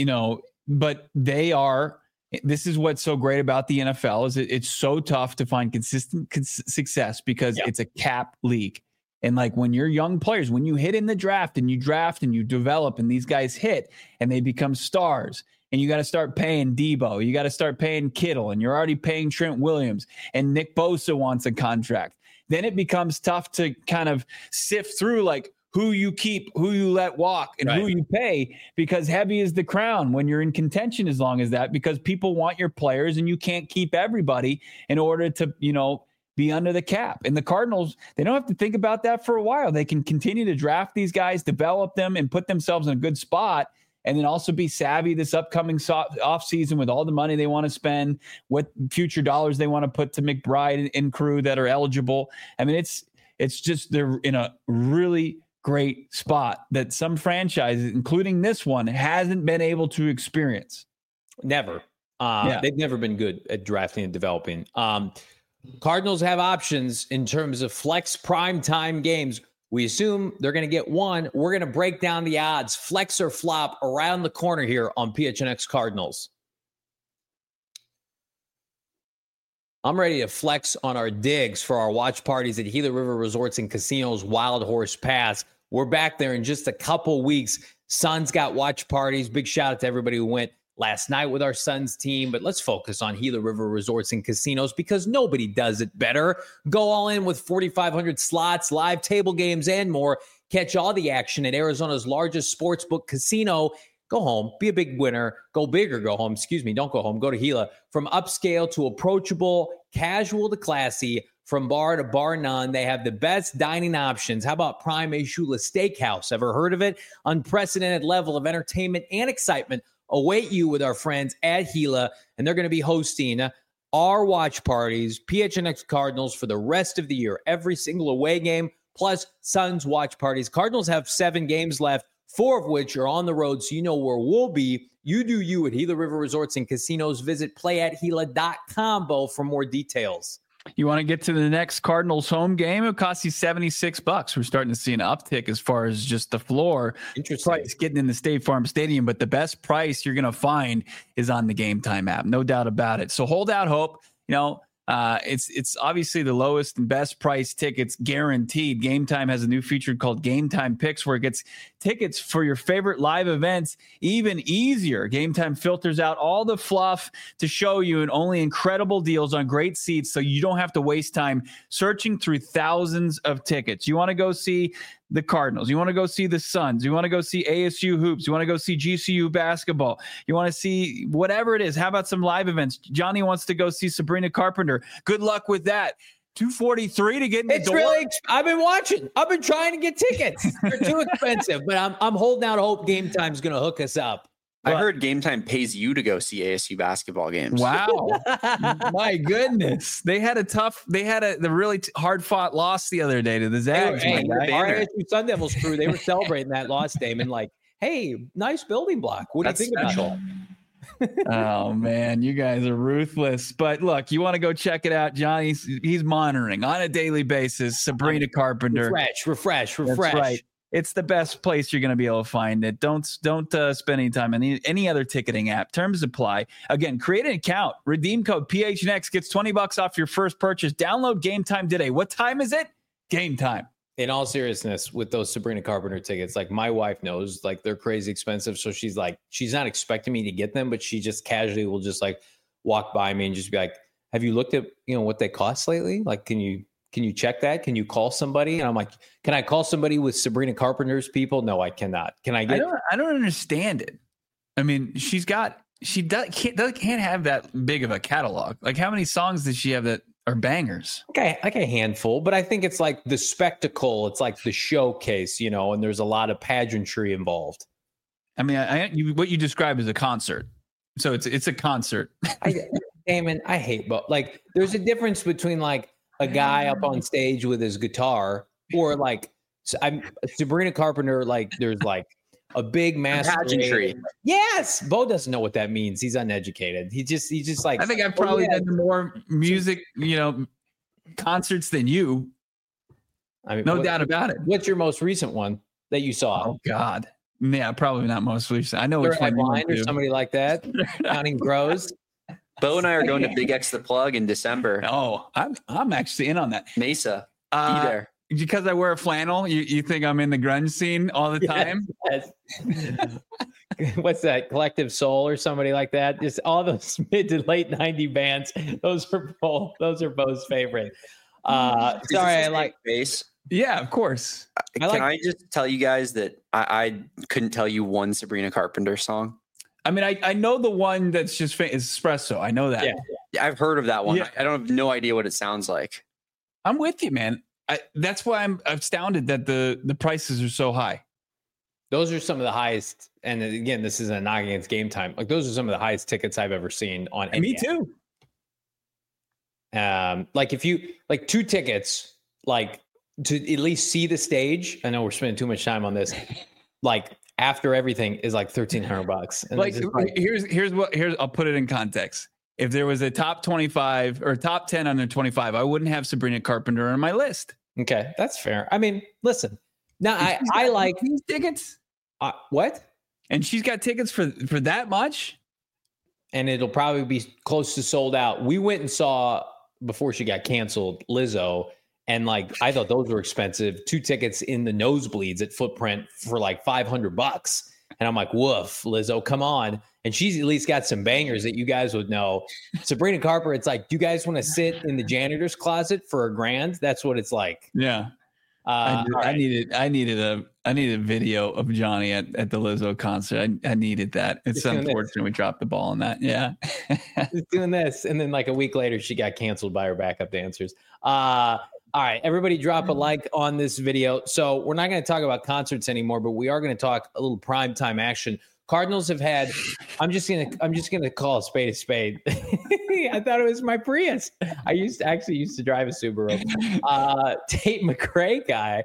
but this is what's so great about the NFL is it's so tough to find consistent success because it's a cap league. And like when you're young players, when you hit in the draft and you develop and these guys hit and they become stars, and you got to start paying Debo. You got to start paying Kittle, and you're already paying Trent Williams, and Nick Bosa wants a contract. Then it becomes tough to kind of sift through like who you keep, who you let walk, and who you pay, because heavy is the crown when you're in contention as long as that, because people want your players and you can't keep everybody in order to, be under the cap. And the Cardinals, they don't have to think about that for a while. They can continue to draft these guys, develop them, and put themselves in a good spot. And then also be savvy this upcoming offseason with all the money they want to spend, what future dollars they want to put to McBride and crew that are eligible. I mean, it's just they're in a really great spot that some franchises, including this one, hasn't been able to experience. Never. They've never been good at drafting and developing. Cardinals have options in terms of flex prime time games. We assume they're going to get one. We're going to break down the odds, flex or flop, around the corner here on PHNX Cardinals. I'm ready to flex on our digs for our watch parties at Gila River Resorts and Casinos Wild Horse Pass. We're back there in just a couple weeks. Suns got watch parties. Big shout out to everybody who went last night with our Suns team, but let's focus on Gila River Resorts and Casinos because nobody does it better. Go all in with 4,500 slots, live table games, and more. Catch all the action at Arizona's largest sportsbook casino. Go home, be a big winner. Go big or go home. Excuse me, don't go home. Go to Gila. From upscale to approachable, casual to classy, from bar to bar none, they have the best dining options. How about Prime Ashula Steakhouse? Ever heard of it? Unprecedented level of entertainment and excitement await you with our friends at Gila, and they're going to be hosting our watch parties, PHNX Cardinals, for the rest of the year. Every single away game, plus Suns watch parties. Cardinals have 7 games left, 4 of which are on the road, so you know where we'll be. You do you at Gila River Resorts and Casinos. Visit playathila.com, Bo, for more details. You want to get to the next Cardinals home game? It costs you $76. We're starting to see an uptick as far as just the floor price getting in the State Farm Stadium. But the best price you're going to find is on the Game Time app. No doubt about it. So hold out hope. It's obviously the lowest and best price tickets guaranteed. Game Time has a new feature called Game Time Picks, where it gets tickets for your favorite live events even easier. Game Time filters out all the fluff to show you and only incredible deals on great seats, so you don't have to waste time searching through thousands of tickets. You want to go see the Cardinals. You want to go see the Suns. You want to go see ASU hoops. You want to go see GCU basketball. You want to see whatever it is. How about some live events? Johnny wants to go see Sabrina Carpenter. Good luck with that. $243 to get in the door. I've been watching. I've been trying to get tickets. They're too expensive, but I'm holding out hope Game Time's going to hook us up. I heard Game Time pays you to go see ASU basketball games. Wow. My goodness. They had the really hard fought loss the other day to the Zags. Our ASU Sun Devils crew, they were celebrating that loss, Damon. Like, hey, nice building block. What do you think about that? Oh man, you guys are ruthless. But look, you want to go check it out. He's monitoring on a daily basis. Sabrina Carpenter. Refresh. That's right. It's the best place you're going to be able to find it. Don't spend any time on any other ticketing app. Terms apply. Again, create an account. Redeem code PHNX gets $20 off your first purchase. Download Game Time today. What time is it? Game Time. In all seriousness, with those Sabrina Carpenter tickets, like my wife knows, like they're crazy expensive. So she's not expecting me to get them, but she just casually will just like walk by me and just be like, "Have you looked at what they cost lately? Like, can you check that? Can you call somebody?" And I'm like, "Can I call somebody with Sabrina Carpenter's people?" No, I cannot. Can I get? I don't understand it. I mean, she can't have that big of a catalog. Like, how many songs does she have that are bangers? Okay, like a handful, but I think it's like the spectacle. It's like the showcase, and there's a lot of pageantry involved. I mean, what you describe as a concert. So it's a concert. Damon, I hate both. Like, there's a difference between like a guy up on stage with his guitar or like Sabrina Carpenter. Like, there's like a big pageantry. Yes, Bo doesn't know what that means. He's uneducated. He's just like. I think I've probably done more music, concerts than you. I mean, no doubt about it. What's your most recent one that you saw? Oh God, yeah, probably not most recent. I know which one or somebody like that. Counting Crows. Bo and I are going to Big X the Plug in December. Oh, I'm actually in on that. Mesa, be there. Because I wear a flannel, you think I'm in the grunge scene all the time? Yes. What's that? Collective Soul or somebody like that? Just all those mid to late 90 bands. Those are Bo's favorite. Sorry, I like bass. Yeah, of course. Can I just tell you guys that I couldn't tell you one Sabrina Carpenter song? I mean, I know the one that's just Espresso. I know that. Yeah, I've heard of that one. Yeah. I don't have no idea what it sounds like. I'm with you, man. That's why I'm astounded that the prices are so high. Those are some of the highest. And again, this is a knock against Game Time. Like, those are some of the highest tickets I've ever seen on any Me too. Like, if you like 2 tickets, like to at least see the stage. I know we're spending too much time on this. Like, after everything is like $1,300. And here's I'll put it in context. If there was a top 25 or top 10 under 25, I wouldn't have Sabrina Carpenter on my list. Okay, that's fair. I mean, listen. Now I like these tickets. What? And she's got tickets for that much? And it'll probably be close to sold out. We went and saw, before she got canceled, Lizzo. And like, I thought those were expensive. 2 tickets in the nosebleeds at Footprint for like $500. And I'm like, woof, Lizzo, come on. And she's at least got some bangers that you guys would know. Sabrina Carpenter, it's like, do you guys want to sit in the janitor's closet for $1,000? That's what it's like. Yeah. I needed a video of Johnny at the Lizzo concert. I needed that. It's unfortunate we dropped the ball on that. Yeah. Just doing this. And then like a week later, she got canceled by her backup dancers. All right, everybody drop a like on this video. So we're not going to talk about concerts anymore, but we are going to talk a little primetime action. Cardinals have had, I'm just gonna call a spade a spade. I thought it was my Prius. I used to drive a Subaru. Tate McRae guy.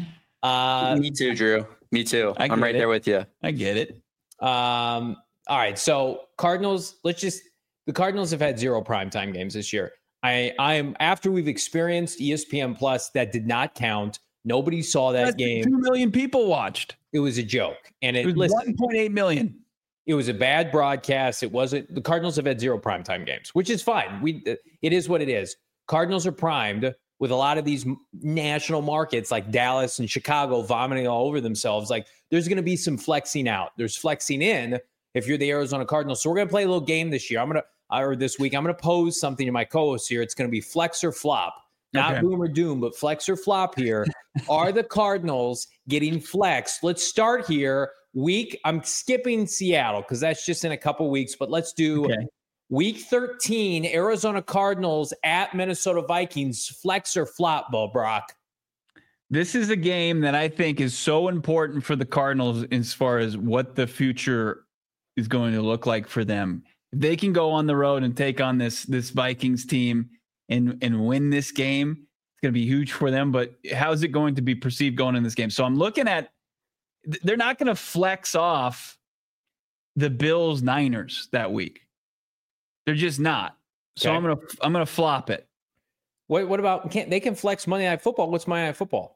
Me too, Drew. Me too. I'm right there with you. I get it. All right. So Cardinals, the Cardinals have had 0 primetime games this year. I'm after we've experienced ESPN Plus, that did not count. Nobody saw that game. 2 million people watched. It was a joke. And it was 1.8 million. It was a bad broadcast. It wasn't. The Cardinals have had 0 primetime games, which is fine. It is what it is. Cardinals are primed with a lot of these national markets like Dallas and Chicago vomiting all over themselves. Like, there's going to be some flexing out. There's flexing in if you're the Arizona Cardinals. So we're going to play a little game this year. This week, I'm going to pose something to my co-host here. It's going to be flex or flop. not boom or doom, but flex or flop here. Are the Cardinals getting flexed? Let's start here. I'm skipping Seattle because that's just in a couple weeks, but let's do week 13, Arizona Cardinals at Minnesota Vikings. Flex or flop, Bo Brock? This is a game that I think is so important for the Cardinals as far as what the future is going to look like for them. If they can go on the road and take on this Vikings team and win this game, it's going to be huge for them. But how is it going to be perceived going in this game? So I'm looking at, they're not going to flex off the Bills Niners that week. They're just not. So I'm gonna flop it. What about they can flex Monday Night Football? What's Monday Night Football?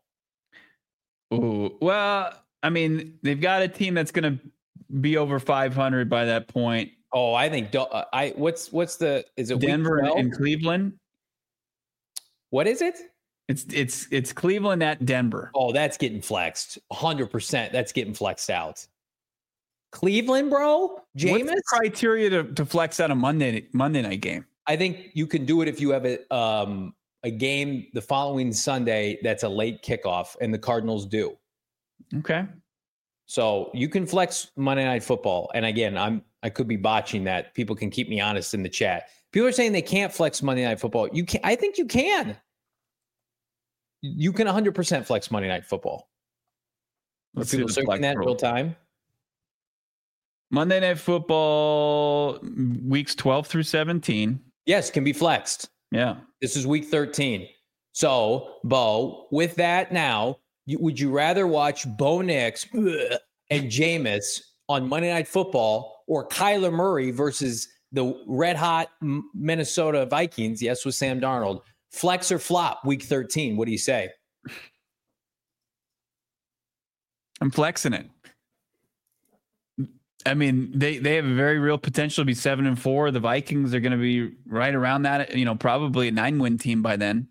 Ooh, well, I mean, they've got a team that's going to be over 500 by that point. Oh, I think is it Denver and Cleveland? What is it? It's Cleveland at Denver. Oh, that's getting flexed. 100%. That's getting flexed out. Cleveland, bro? Jameis? What's the criteria to flex out a Monday night game? I think you can do it if you have a game the following Sunday that's a late kickoff, and the Cardinals do. Okay. So you can flex Monday Night Football. And again, I could be botching that. People can keep me honest in the chat. People are saying they can't flex Monday Night Football. You can. I think you can. You can 100% flex Monday Night Football. Are people searching that in real time? Monday Night Football weeks 12 through 17. Yes, can be flexed. Yeah. This is week 13. So, Bo, with that now, would you rather watch Bo Nix and Jameis on Monday Night Football or Kyler Murray versus the red-hot Minnesota Vikings, yes, with Sam Darnold? Flex or flop week 13? What do you say? I'm flexing it. I mean, they have a very real potential to be 7-4. The Vikings are going to be right around that, probably a 9-win team by then.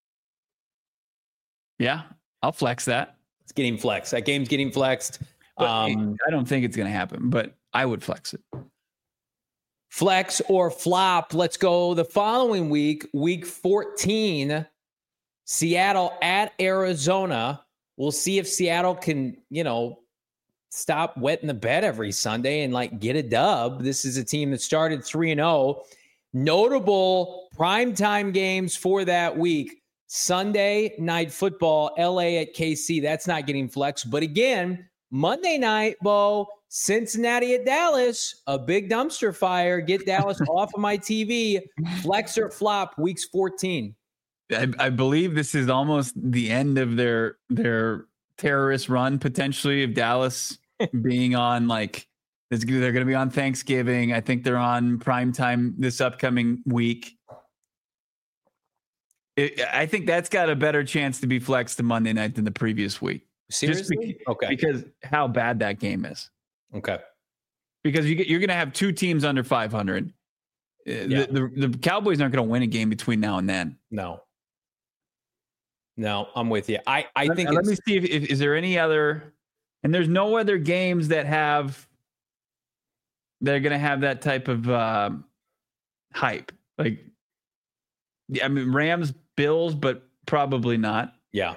Yeah, I'll flex that. It's getting flexed. That game's getting flexed. I don't think it's going to happen, but I would flex it. Flex or flop. Let's go the following week, week 14, Seattle at Arizona. We'll see if Seattle can, stop wetting the bed every Sunday and get a dub. This is a team that started 3-0. Notable primetime games for that week. Sunday Night Football, LA at KC. That's not getting flexed. But again, Monday night, Bo, Cincinnati at Dallas, a big dumpster fire. Get Dallas off of my TV. Flex or flop, weeks 14. I believe this is almost the end of their terrorist run, potentially, of Dallas being on they're going to be on Thanksgiving. I think they're on primetime this upcoming week. I think that's got a better chance to be flexed to Monday night than the previous week. Seriously? Okay. Because how bad that game is. Okay. Because you're going to have two teams under 500. Yeah. The Cowboys aren't going to win a game between now and then. No, I'm with you. I think. Let me see if is there any other, and there's no other games that are going to have that type of hype. Rams, Bills, but probably not. Yeah.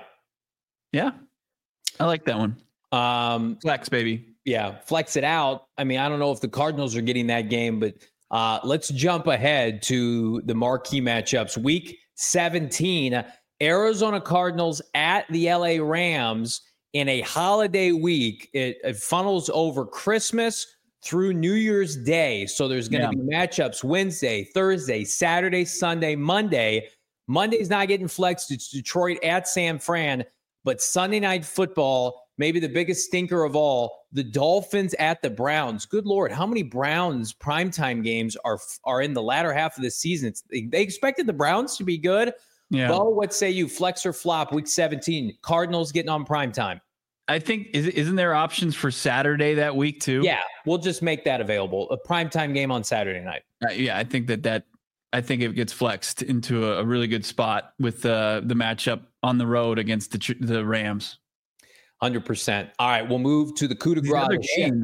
I like that one. Flex, baby. Yeah, flex it out. I don't know if the Cardinals are getting that game, but let's jump ahead to the marquee matchups. Week 17. Arizona Cardinals at the LA Rams in a holiday week. It funnels over Christmas through New Year's Day. So there's going to be matchups Wednesday, Thursday, Saturday, Sunday, Monday. Monday's not getting flexed. It's Detroit at San Fran. But Sunday Night Football, maybe the biggest stinker of all, the Dolphins at the Browns. Good Lord, how many Browns primetime games are in the latter half of the season? They expected the Browns to be good. Yeah. Bo, what say you? Flex or flop week 17? Cardinals getting on primetime. I think, isn't there options for Saturday that week too? Yeah, we'll just make that available. A primetime game on Saturday night. I think I think it gets flexed into a really good spot with the matchup on the road against the Rams. 100%. All right, we'll move to the coup de grace.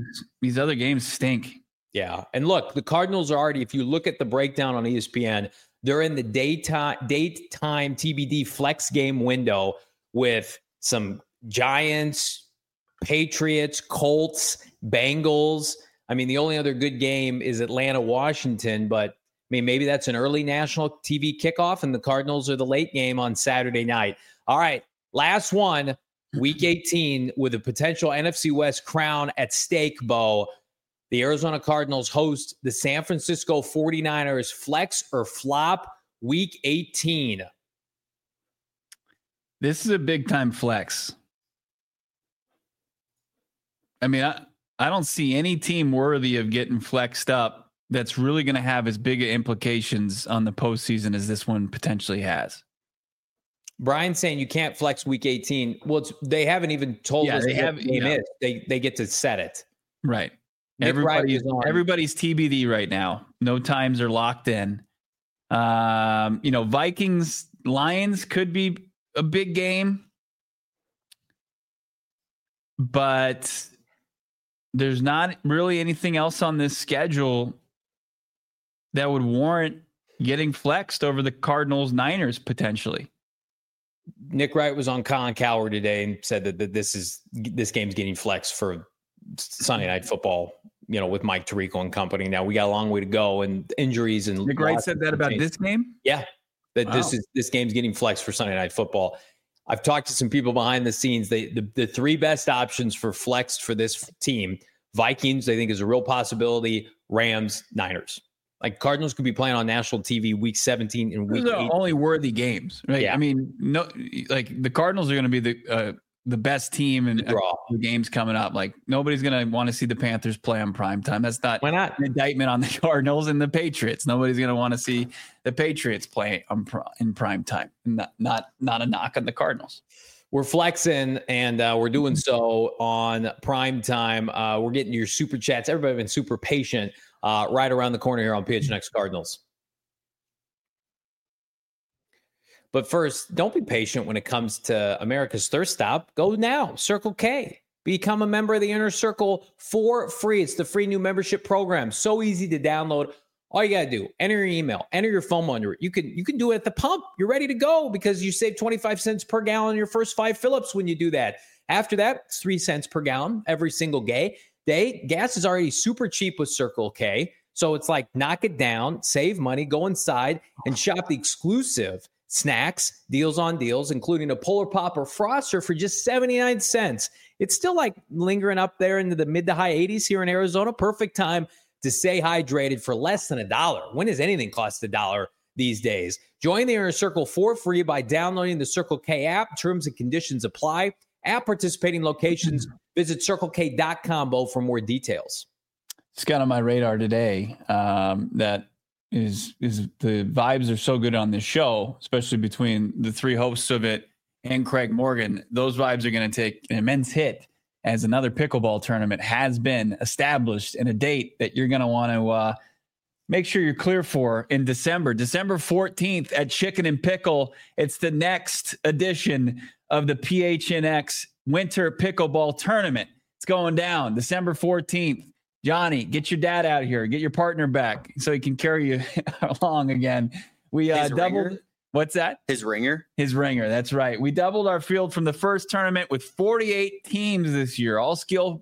These other games stink. Yeah, and look, the Cardinals are already, if you look at the breakdown on ESPN, They're in the daytime TBD flex game window with some Giants, Patriots, Colts, Bengals. I mean, the only other good game is Atlanta, Washington, but I mean, maybe that's an early national TV kickoff, and the Cardinals are the late game on Saturday night. All right, last one, Week 18, with a potential NFC West crown at stake, Bo. The Arizona Cardinals host the San Francisco 49ers. Flex or flop, Week 18. This is a big-time flex. I mean, I don't see any team worthy of getting flexed up that's really going to have as big of implications on the postseason as this one potentially has. Brian's saying you can't flex Week 18. Well, they haven't even told us they have, what the game is. They get to set it. Right. Everybody's TBD right now. No times are locked in. Vikings, Lions could be a big game, but there's not really anything else on this schedule that would warrant getting flexed over the Cardinals Niners potentially. Nick Wright was on Colin Cowherd today and said that this game's getting flexed for Sunday Night Football, with Mike Tirico and company. Now we got a long way to go and injuries and Nick Wright said that about this game? Yeah. That this game's getting flexed for Sunday Night Football. I've talked to some people behind the scenes. The three best options for flex for this team, Vikings, I think is a real possibility. Rams, Niners. Like Cardinals could be playing on national TV week 17 and week 8. Those are only worthy games, right? Yeah. I mean, no, like the Cardinals are going to be the best team in the games coming up. Like nobody's going to want to see the Panthers play on primetime. That's not, why not? An indictment on the Cardinals and the Patriots. Nobody's going to want to see the Patriots play in primetime. Not a knock on the Cardinals. We're flexing, and we're doing so on primetime. We're getting your super chats. Everybody's been super patient right around the corner here on PHNX Cardinals. But first, don't be patient when it comes to America's Thirst Stop. Go now, Circle K. Become a member of the Inner Circle for free. It's the free new membership program. So easy to download. All you got to do, enter your email, enter your phone number. You can do it at the pump. You're ready to go because you save 25 cents per gallon in your first 5 fill-ups when you do that. After that, it's 3 cents per gallon every single day. Gas is already super cheap with Circle K. So it's like knock it down, save money, go inside and shop the exclusive snacks, deals on deals, including a Polar Pop or Froster for just 79 cents. It's still like lingering up there into the mid to high 80s here in Arizona. Perfect time to stay hydrated for less than $1. When does anything cost $1 these days? Join the Inner Circle for free by downloading the Circle K app. Terms and conditions apply. At participating locations, visit CircleK.com for more details. It's got on my radar today that is the vibes are so good on this show, especially between the three hosts of it and Craig Morgan. Those vibes are going to take an immense hit as another pickleball tournament has been established and a date that you're going to want to make sure you're clear for in December 14th at Chicken and Pickle. It's the next edition of the PHNX Winter Pickleball Tournament. It's going down December 14th. Johnny, get your dad out here. Get your partner back so he can carry you along again. We doubled. Ringer? What's that? His ringer. His ringer. That's right. We doubled our field from the first tournament with 48 teams this year. All skill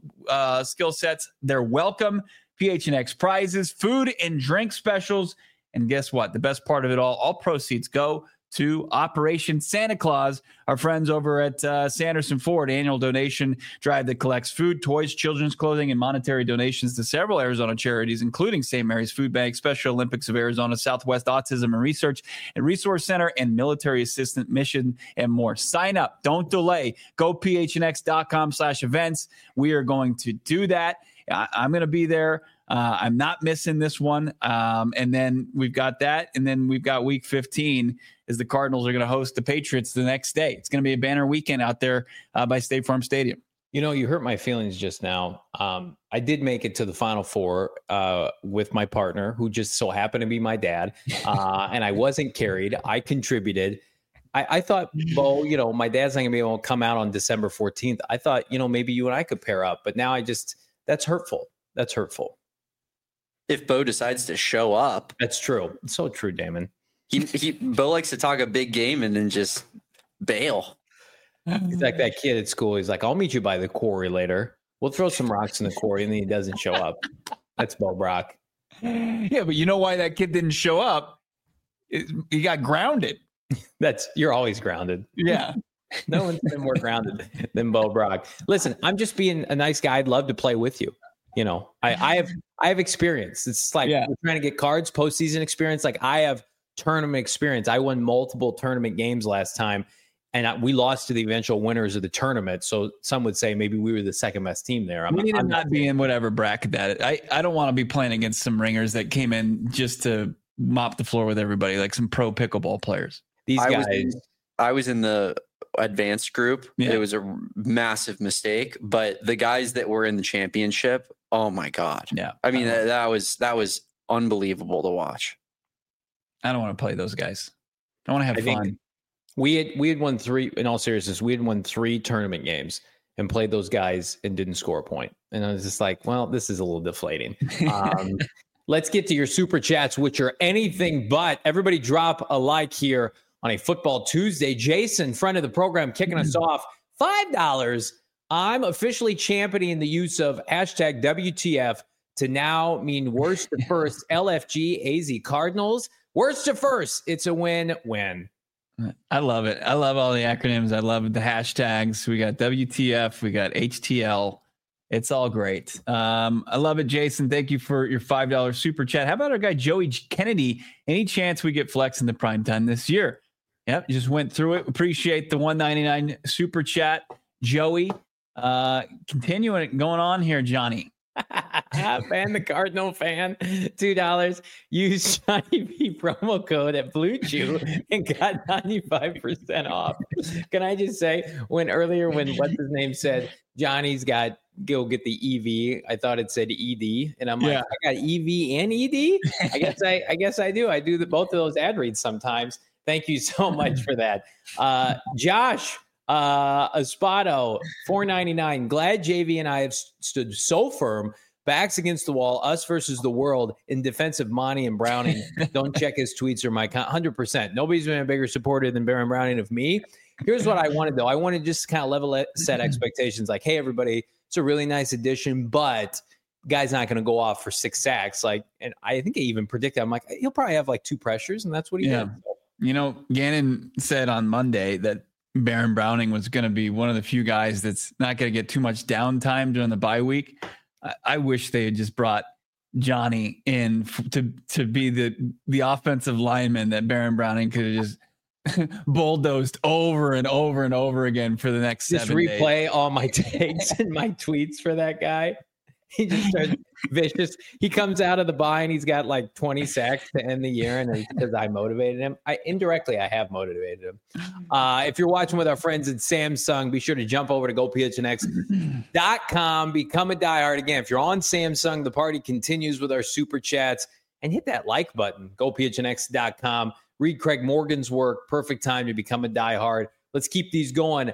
sets. They're welcome. PHNX prizes, food and drink specials. And guess what? The best part of it all proceeds go to Operation Santa Claus, our friends over at Sanderson Ford, annual donation drive that collects food, toys, children's clothing, and monetary donations to several Arizona charities, including St. Mary's Food Bank, Special Olympics of Arizona, Southwest Autism and Research and Resource Center, and Military Assistant Mission, and more. Sign up. Don't delay. Go phnx.com/events. We are going to do that. I'm going to be there. I'm not missing this one. And then we've got that. And then we've got week 15 is the Cardinals are going to host the Patriots the next day. It's going to be a banner weekend out there by State Farm Stadium. You know, you hurt my feelings just now. I did make it to the Final Four with my partner, who just so happened to be my dad. And I wasn't carried. I contributed. I thought, Bo, my dad's not going to be able to come out on December 14th. I thought, maybe you and I could pair up. But now that's hurtful. That's hurtful. If Bo decides to show up. That's true. It's so true, Damon. Bill likes to talk a big game and then just bail. He's like that kid at school. He's like, I'll meet you by the quarry later. We'll throw some rocks in the quarry, and then he doesn't show up. That's Bo Brock. Yeah, but you know why that kid didn't show up? He got grounded. You're always grounded. Yeah. No one's been more grounded than Bo Brock. Listen, I'm just being a nice guy. I'd love to play with you. I have experience. It's like we're trying to get cards, postseason experience. Like I have tournament experience. I won multiple tournament games last time, and we lost to the eventual winners of the tournament. So some would say maybe we were the second best team there. I'm not be in whatever bracket that. I don't want to be playing against some ringers that came in just to mop the floor with everybody, like some pro pickleball players. These guys. I was in the advanced group. Yeah. It was a massive mistake, but the guys that were in the championship, oh my God. Yeah. I mean, that was unbelievable to watch. I don't want to play those guys. I want to have fun. We had won 3, in all seriousness, we had won 3 tournament games and played those guys and didn't score a point. And I was just like, well, this is a little deflating. Let's get to your super chats, which are anything but. Everybody drop a like here on a Football Tuesday. Jason, friend of the program, kicking us off. $5. I'm officially championing the use of hashtag WTF to now mean worst to first. LFG AZ Cardinals. Worst to first. It's a win-win. I love it. I love all the acronyms. I love the hashtags. We got WTF. We got HTL. It's all great. I love it, Jason. Thank you for your $5 super chat. How about our guy, Joey Kennedy? Any chance we get Flex in the prime time this year? Yep, just went through it. Appreciate the $1.99 super chat, Joey. Continuing going on here, Johnny. Fan the Cardinal fan, $2. Use Johnny B promo code at Blue Chew and got 95% off. Can I just say, when what's his name said Johnny's got go get the EV, I thought it said ED, and I'm like, I got EV and ED. I guess I do. I do both of those ad reads sometimes. Thank you so much for that, Josh. Espada, $4.99. Glad JV and I have stood so firm, backs against the wall, us versus the world in defense of Monty and Browning. Don't check his tweets or my 100%. Nobody's been a bigger supporter than Baron Browning of me. Here's what I wanted, though. I wanted just to kind of level set expectations. Like, hey, everybody, it's a really nice addition, but guy's not going to go off for 6 sacks. Like, and I think I even predicted, I'm like, he'll probably have like 2 pressures, and that's what he did. So. Gannon said on Monday that Baron Browning was going to be one of the few guys that's not going to get too much downtime during the bye week. I wish they had just brought Johnny in to be the offensive lineman that Baron Browning could have just bulldozed over and over and over again for the next 7 days. Just replay all my takes and my tweets for that guy. He just starts vicious. He comes out of the bye and he's got like 20 sacks to end the year, and it's because I motivated him. I have motivated him. If you're watching with our friends at Samsung, be sure to jump over to GoPHNX.com. Become a diehard. Again, if you're on Samsung, the party continues with our super chats, and hit that like button. GoPHNX.com. Read Craig Morgan's work. Perfect time to become a diehard. Let's keep these going.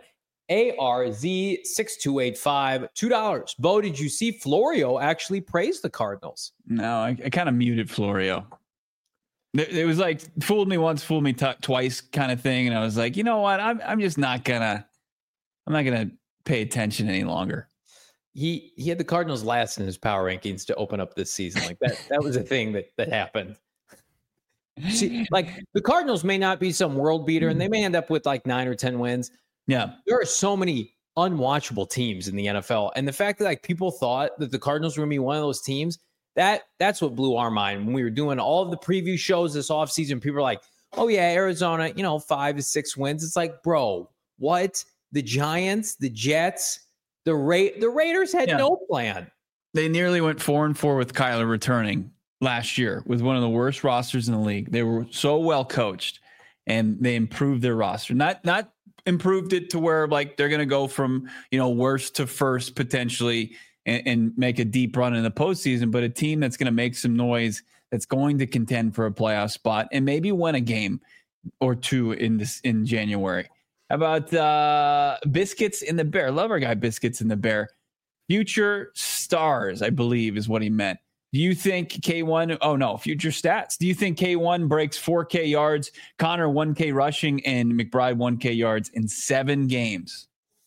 ARZ6285, $2. Bo, did you see Florio actually praise the Cardinals? No, I kind of muted Florio. It was like fooled me once, fooled me twice kind of thing. And I was like, you know what? I'm just not gonna pay attention any longer. He had the Cardinals last in his power rankings to open up this season. Like that was a thing that happened. See, like the Cardinals may not be some world beater, and they may end up with like 9 or 10 wins. Yeah, there are so many unwatchable teams in the NFL, and the fact that like people thought that the Cardinals were going to be one of those teams, that's what blew our mind when we were doing all of the preview shows this offseason. People were like, "Oh yeah, Arizona, 5 to 6 wins." It's like, bro, what? The Giants, the Jets, the Raiders had no plan. They nearly went 4-4 with Kyler returning last year with one of the worst rosters in the league. They were so well coached, and they improved their roster. Not improved it to where like they're going to go from worst to first potentially and make a deep run in the postseason, but a team that's going to make some noise, that's going to contend for a playoff spot and maybe win a game or two in January. How about Biscuits in the Bear? Love our guy Biscuits in the Bear. Future stars, I believe, is what he meant. Do you think K1? Oh no, future stats. Do you think K1 breaks 4K yards, Connor 1K rushing, and McBride 1K yards in 7 games?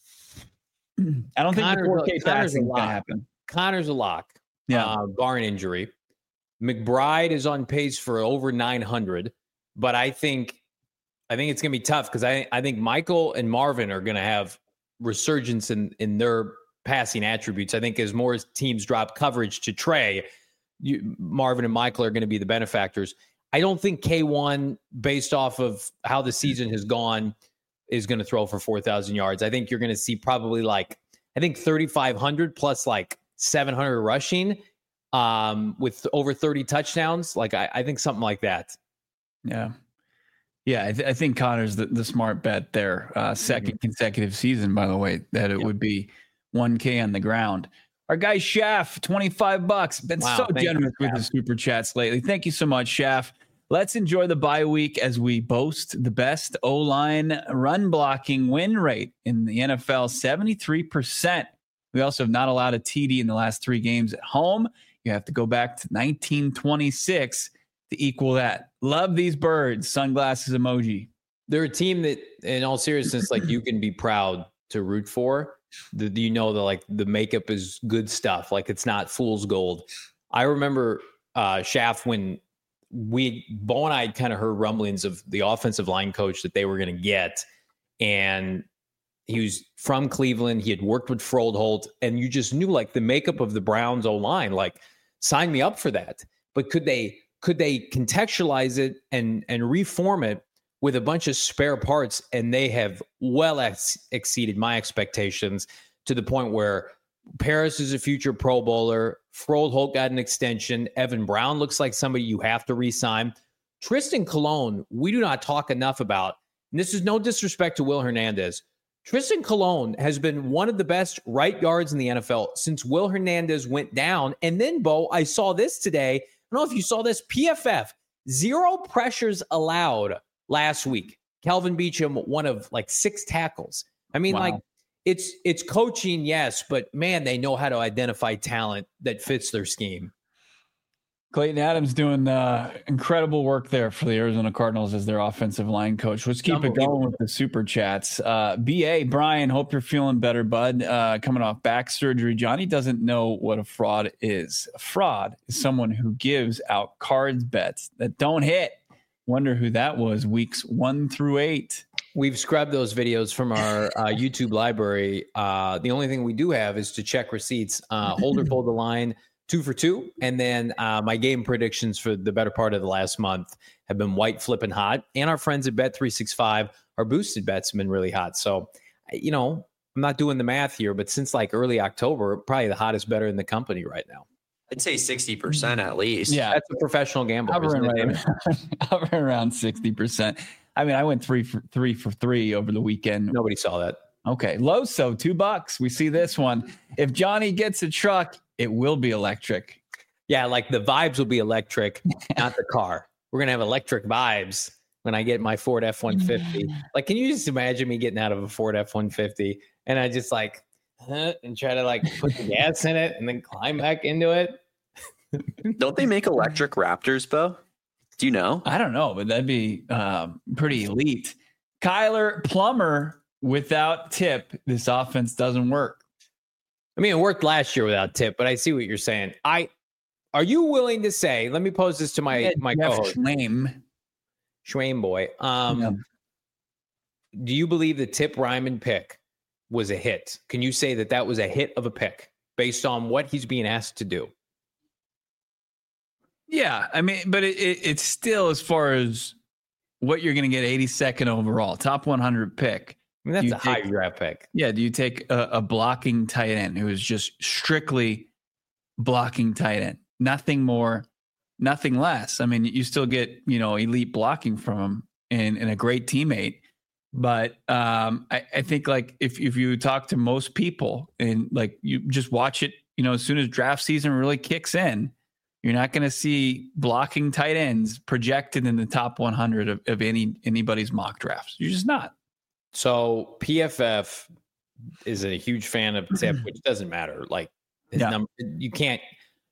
I don't think the 4K passing is going to happen. Connor's a lock. Yeah, barring injury. McBride is on pace for over 900, but I think it's going to be tough because I think Michael and Marvin are going to have resurgence in their passing attributes. I think as more teams drop coverage to Trey, Marvin and Michael are going to be the benefactors. I don't think K1, based off of how the season has gone, is going to throw for 4,000 yards. I think you're going to see probably 3,500 plus 700 rushing with over 30 touchdowns. I think something like that. Yeah. Yeah, I think Connor's the smart bet there. Second consecutive season, by the way, that it would be 1K on the ground. Our guy Shaft, $25. Been so generous with the super chats lately. Thank you so much, Shaft. Let's enjoy the bye week as we boast the best O-line run blocking win rate in the NFL, 73%. We also have not allowed a TD in the last 3 games at home. You have to go back to 1926 to equal that. Love these birds. Sunglasses emoji. They're a team that, in all seriousness, you can be proud to root for. The makeup is good stuff. It's not fool's gold. I remember Shaft when Bo and I had kind of heard rumblings of the offensive line coach that they were going to get. And he was from Cleveland. He had worked with Froldholt, and you just knew the makeup of the Browns O-line, sign me up for that. But could they contextualize it and reform it with a bunch of spare parts? And they have well exceeded my expectations to the point where Paris is a future Pro Bowler. Froldholt got an extension. Evan Brown looks like somebody you have to re-sign. Tristan Colon, we do not talk enough about, and this is no disrespect to Will Hernandez. Tristan Colon has been one of the best right guards in the NFL since Will Hernandez went down. And then, Bo, I saw this today. I don't know if you saw this. PFF, 0 pressures allowed last week. Kelvin Beachum, one of 6 tackles. I mean, wow. It's coaching, yes, but man, they know how to identify talent that fits their scheme. Clayton Adams doing incredible work there for the Arizona Cardinals as their offensive line coach. Let's keep it going with the super chats. BA, Brian, hope you're feeling better, bud. Coming off back surgery. Johnny doesn't know what a fraud is. A fraud is someone who gives out cards bets that don't hit. Wonder who that was weeks 1 through 8. We've scrubbed those videos from our YouTube library. The only thing we do have is to check receipts. Hold or fold the line, 2 for 2. And then my game predictions for the better part of the last month have been white flipping hot. And our friends at Bet365, our boosted bets have been really hot. So, I'm not doing the math here, but since early October, probably the hottest better in the company right now. I'd say 60% at least. Yeah, that's a professional gambler. Hovering around 60%. I mean, I went 3 for 3 over the weekend. Nobody saw that. Okay. Loso, $2. We see this one. If Johnny gets a truck, it will be electric. Yeah, the vibes will be electric, not the car. We're going to have electric vibes when I get my Ford F-150. Can you just imagine me getting out of a Ford F-150 and I just and try to put the gas in it and then climb back into it? Don't they make electric Raptors, Bo? Do you know? I don't know, but that'd be pretty elite. Kyler Plummer, without Tip, this offense doesn't work. I mean, it worked last year without Tip, but I see what you're saying. Are you willing to say, let me pose this to my co-host. Schwame boy. Do you believe the Tip Ryman pick was a hit? Can you say that was a hit of a pick based on what he's being asked to do? Yeah, I mean, but it's still, as far as what you're going to get, 82nd overall, top 100 pick. I mean, that's a high draft pick. Yeah, do you take a blocking tight end who is just strictly blocking tight end? Nothing more, nothing less. I mean, you still get, elite blocking from him and a great teammate. But I think if you talk to most people and you just watch it, as soon as draft season really kicks in, you're not going to see blocking tight ends projected in the top 100 of anybody's mock drafts. You're just not. So PFF is a huge fan of Tip, which doesn't matter. Number, you can't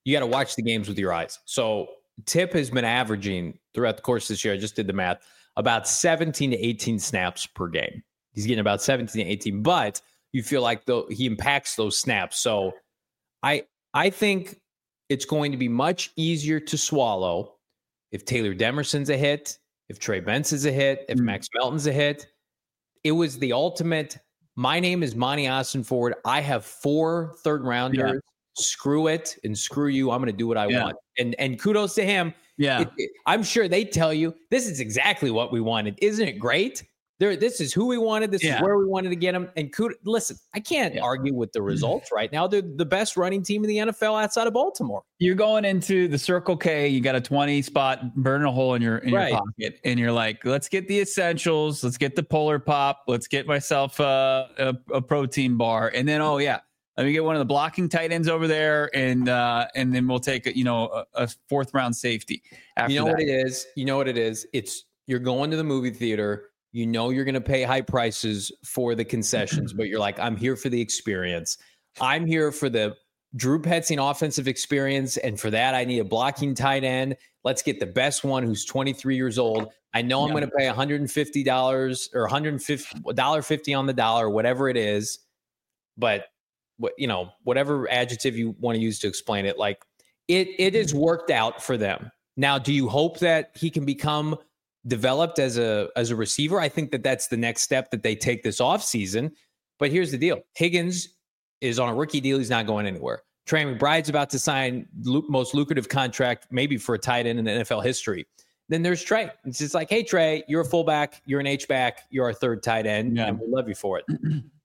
you got to watch the games with your eyes. So Tip has been averaging throughout the course of this year, I just did the math, about 17 to 18 snaps per game. He's getting about 17 to 18, but you feel like he impacts those snaps. So I think it's going to be much easier to swallow if Taylor Demerson's a hit, if Trey Benson's a hit, if Max Melton's a hit. It was the ultimate. My name is Monty Ossenford. I have 4 third-rounders. Yeah. Screw it and screw you. I'm going to do what I want. And kudos to him. Yeah. I'm sure they tell you this is exactly what we wanted. Isn't it great? This is who we wanted. This is where we wanted to get him. And listen, I can't argue with the results right now. They're the best running team in the NFL outside of Baltimore. You're going into the Circle K. You got a 20 spot, burning a hole in your pocket. And you're like, let's get the essentials. Let's get the Polar Pop. Let's get myself a protein bar. And then, let me get one of the blocking tight ends over there. And then we'll take, a 4th round safety. After what it is? You know what it is? You're going to the movie theater. You know you're going to pay high prices for the concessions, but you're like, I'm here for the experience. I'm here for the Drew Petzing offensive experience, and for that, I need a blocking tight end. Let's get the best one who's 23 years old. I know I'm going to pay $150 or $150 on the dollar, whatever it is. But whatever adjective you want to use to explain it, like it has worked out for them. Now, do you hope that he can become developed as a receiver? I think that's the next step that they take this offseason. But here's the deal. Higgins is on a rookie deal. He's not going anywhere. Trey McBride's about to sign most lucrative contract, maybe for a tight end in NFL history. Then there's Trey. It's just like, hey, Trey, you're a fullback. You're an H-back. You're our 3rd tight end, and we love you for it.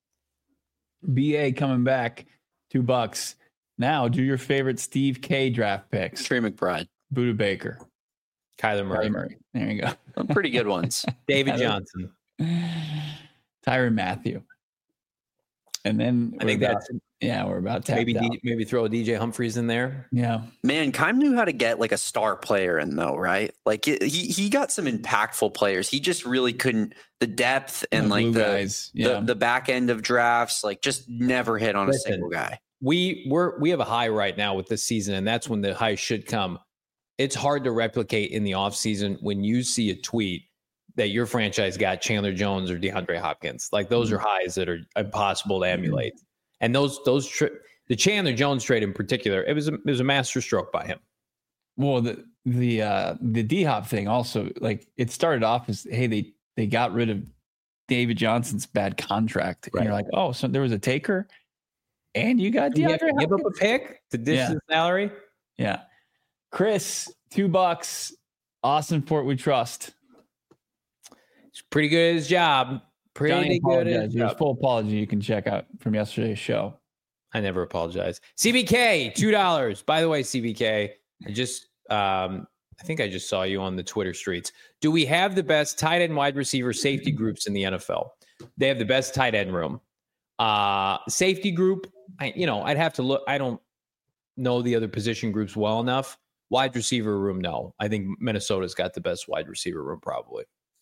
BA coming back, $2. Now, do your favorite Steve K draft picks. Trey McBride. Buda Baker. Kyler Murray. There you go. Some pretty good ones. David Johnson. Tyrann Mathieu. And then I think we're about tapped out. Maybe throw a DJ Humphries in there. Yeah. Man, Keim knew how to get like a star player in though, right? Like he got some impactful players. He just really couldn't the depth and like the back end of drafts, like just never hit on a single guy. We have a high right now with this season, and that's when the high should come. It's hard to replicate in the offseason when you see a tweet that your franchise got Chandler Jones or DeAndre Hopkins. Like those are highs that are impossible to emulate. And the Chandler Jones trade in particular, it was a master stroke by him. Well, the D-Hop thing also, like it started off as, hey, they got rid of David Johnson's bad contract. Right. And you're like, oh, so there was a taker and you got DeAndre Hopkins. Give up a pick to dish the salary. Yeah. Chris, $2. Ossenfort, we trust. He's pretty good at his job. Pretty good at his job. Full apology you can check out from yesterday's show. I never apologize. CBK, $2. By the way, CBK, I think I just saw you on the Twitter streets. Do we have the best tight end, wide receiver, safety groups in the NFL? They have the best tight end room. Safety group, I'd have to look. I don't know the other position groups well enough. Wide receiver room, no. I think Minnesota's got the best wide receiver room, probably.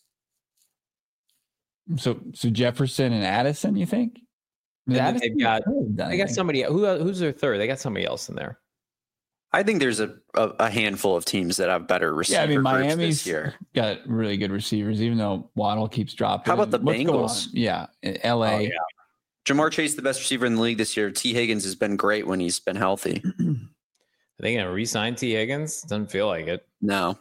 So Jefferson and Addison, you think? They got somebody. Who's their 3rd? They got somebody else in there. I think there's a handful of teams that have better receiver groups Miami's this year. Got really good receivers, even though Waddle keeps dropping. How about the Bengals? Yeah, LA. Oh, yeah. Jamar Chase, the best receiver in the league this year. T. Higgins has been great when he's been healthy. Are they going to re-sign T. Higgins? Doesn't feel like it. No.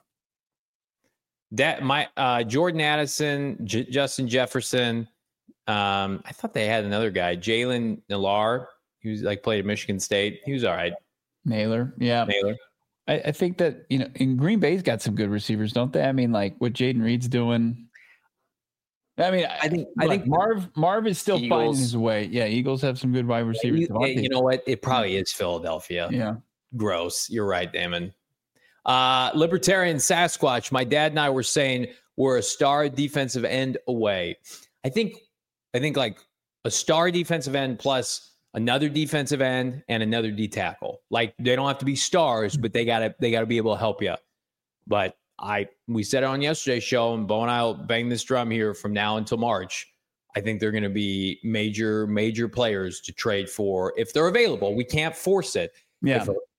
Jordan Addison, Justin Jefferson. I thought they had another guy, Jalen Nailor, who's played at Michigan State. He was all right. Naylor. I think that in Green Bay's got some good receivers, don't they? I mean, like what Jaden Reed's doing. I mean, I think Marv is still finding his way. Yeah, Eagles have some good wide receivers. You know what? It probably is Philadelphia. Yeah. Gross. You're right, Damon. Libertarian Sasquatch. My dad and I were saying we're a star defensive end away. I think like a star defensive end plus another defensive end and another D tackle. Like they don't have to be stars, but they gotta be able to help you. But we said it on yesterday's show, and Bo and I'll bang this drum here from now until March. I think they're going to be major players to trade for if they're available. We can't force it. Yeah.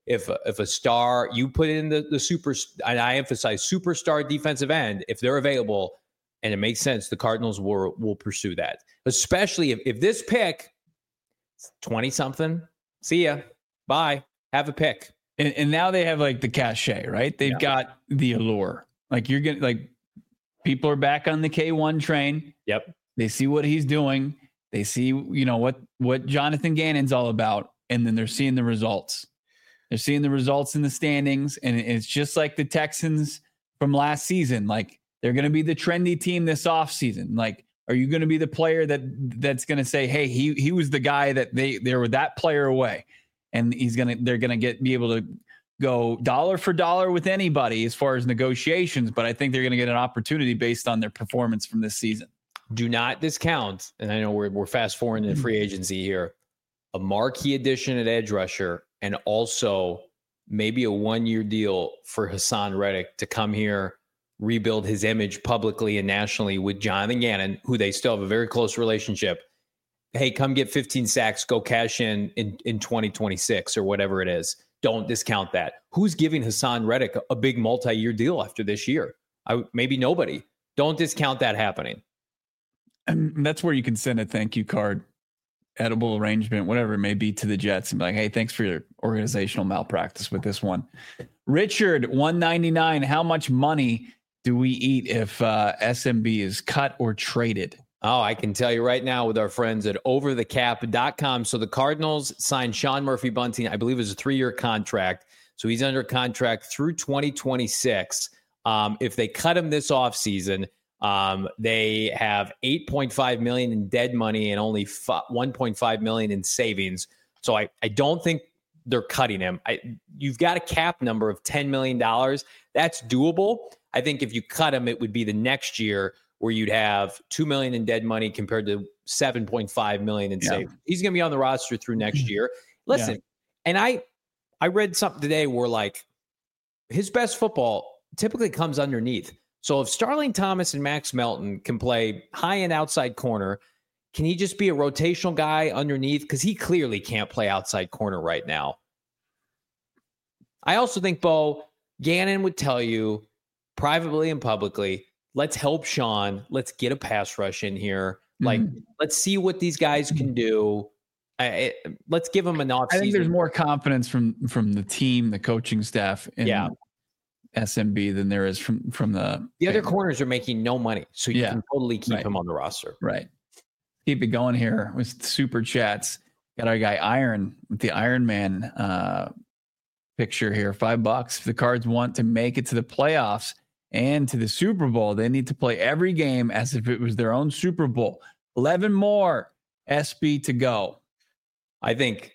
if a star, you put in the super, and I emphasize superstar defensive end, if they're available and it makes sense, the Cardinals will pursue that. Especially if this pick, 20-something, see ya, bye, have a pick. And now they have like the cachet, right? They've got the allure. Like you're getting like people are back on the K1 train. Yep. They see what he's doing. They see, what Jonathan Gannon's all about. And then they're seeing the results. They're seeing the results in the standings. And it's just like the Texans from last season. Like they're going to be the trendy team this offseason. Like, are you going to be the player that's going to say, hey, he was the guy that they were that player away? And they're going to be able to go dollar for dollar with anybody as far as negotiations. But I think they're going to get an opportunity based on their performance from this season. Do not discount, and I know we're fast forwarding in free agency here, a marquee addition at edge rusher, and also maybe a 1-year deal for Hassan Reddick to come here, rebuild his image publicly and nationally with Jonathan Gannon, who they still have a very close relationship. Hey, come get 15 sacks, go cash in 2026 or whatever it is. Don't discount that. Who's giving Hassan Reddick a big multi-year deal after this year? Maybe nobody. Don't discount that happening. And that's where you can send a thank you card, edible arrangement, whatever it may be, to the Jets and be like, hey, thanks for your organizational malpractice with this one. Richard, $199. How much money do we eat if SMB is cut or traded? Oh, I can tell you right now with our friends at overthecap.com. So the Cardinals signed Sean Murphy-Bunting. I believe it was a 3-year contract. So he's under contract through 2026. If they cut him this offseason, they have $8.5 million in dead money and only $1.5 million in savings. So I don't think they're cutting him. You've got a cap number of $10 million. That's doable. I think if you cut him, it would be the next year where you'd have $2 million in dead money compared to $7.5 million in savings. He's going to be on the roster through next year. Listen, and I read something today where like his best football typically comes underneath. So if Starling Thomas and Max Melton can play high-end outside corner, can he just be a rotational guy underneath? Because he clearly can't play outside corner right now. I also think, Bo, Gannon would tell you privately and publicly, let's help Sean. Let's get a pass rush in here. Like, let's see what these guys can do. Let's give them an offseason. I think there's more confidence from the team, the coaching staff, in SMB than there is from the other corners are making no money, so you can totally keep him on the roster. Right. Keep it going here with super chats. Got our guy Iron with the Iron Man picture here. $5. If the Cards want to make it to the playoffs and to the Super Bowl, they need to play every game as if it was their own Super Bowl. 11 more SB to go. I think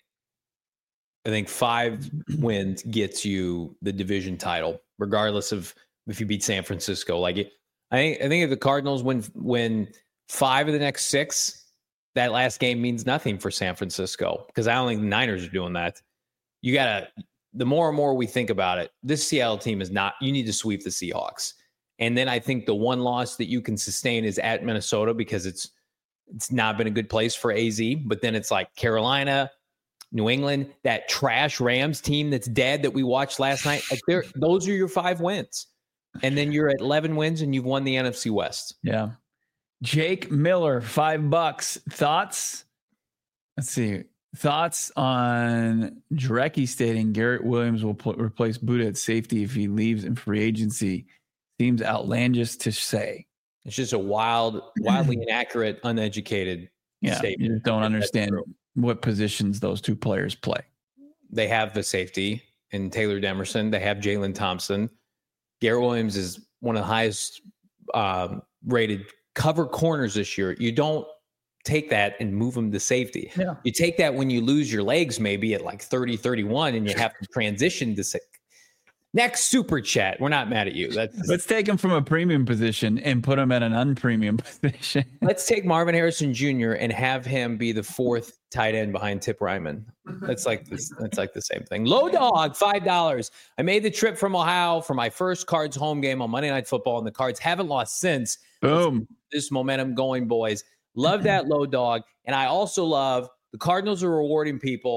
5 wins gets you the division title, regardless of if you beat San Francisco. Like I think if the Cardinals win 5 of the next 6, that last game means nothing for San Francisco, because I don't think the Niners are doing that. The more and more we think about it, this Seattle team you need to sweep the Seahawks. And then I think the one loss that you can sustain is at Minnesota, because it's not been a good place for AZ. But then it's like Carolina, New England, that trash Rams team that's dead that we watched last night. Like those are your 5 wins. And then you're at 11 wins and you've won the NFC West. Yeah. Jake Miller, $5. Thoughts? Let's see. Thoughts on Jarecki stating Garrett Williams will replace Buddha at safety if he leaves in free agency. Seems outlandish to say. It's just a wildly inaccurate, uneducated statement. You just don't understand what positions those two players play. They have the safety in Taylor Demerson. They have Jalen Thompson. Garrett Williams is one of the highest rated cover corners this year. You don't take that and move him to safety. Yeah. You take that when you lose your legs maybe at like 30, 31 and you have to transition to next super chat. We're not mad at you. Let's take him from a premium position and put him at an unpremium position. Let's take Marvin Harrison Jr. and have him be the 4th tight end behind Tip Ryman. That's like the same thing. Low Dog, $5. I made the trip from Ohio for my first Cards home game on Monday Night Football, and the Cards haven't lost since. Boom. This momentum going, boys. Love that, Low Dog. And I also love the Cardinals are rewarding people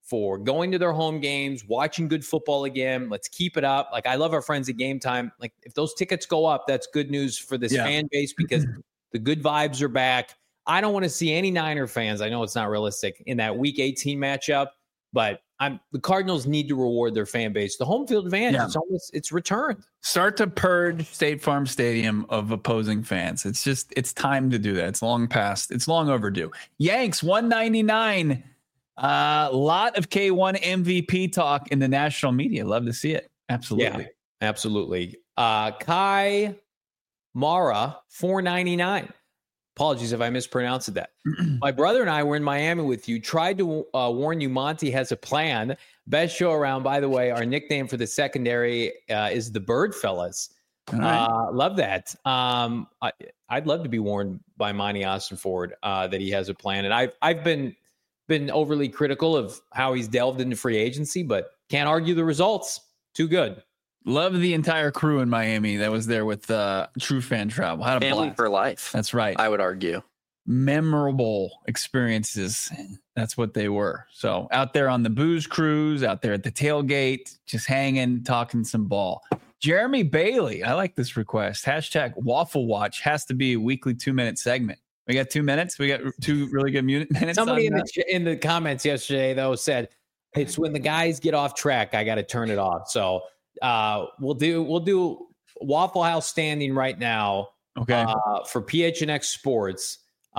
for going to their home games, watching good football again. Let's keep it up. Like, I love our friends at Game Time. Like, if those tickets go up, that's good news for this fan base because the good vibes are back. I don't want to see any Niner fans. I know it's not realistic in that Week 18 matchup, but the Cardinals need to reward their fan base. The home field advantage, it's returned. Start to purge State Farm Stadium of opposing fans. It's time to do that. It's long past. It's long overdue. Yanks 199. A lot of K1 MVP talk in the national media. Love to see it. Absolutely. Yeah, absolutely. Kai Mara 499. Apologies if I mispronounced that. My brother and I were in Miami with you. Tried to warn you Monty has a plan. Best show around. By the way, our nickname for the secondary is the Bird Fellas. Right. Love that. I'd love to be warned by Monty Ossenford that he has a plan. And I've been overly critical of how he's delved into free agency, but can't argue the results. Too good. Love the entire crew in Miami that was there with True Fan Travel. Had a family blast. For life. That's right. I would argue. Memorable experiences. That's what they were. So out there on the booze cruise, out there at the tailgate, just hanging, talking some ball. Jeremy Bailey. I like this request. Hashtag Waffle Watch has to be a weekly 2-minute segment. We got 2 minutes. We got 2 really good minutes. Somebody in the comments yesterday, though, said it's when the guys get off track, I got to turn it off. So we'll do Waffle House standing right now. Okay. For PHNX Sports.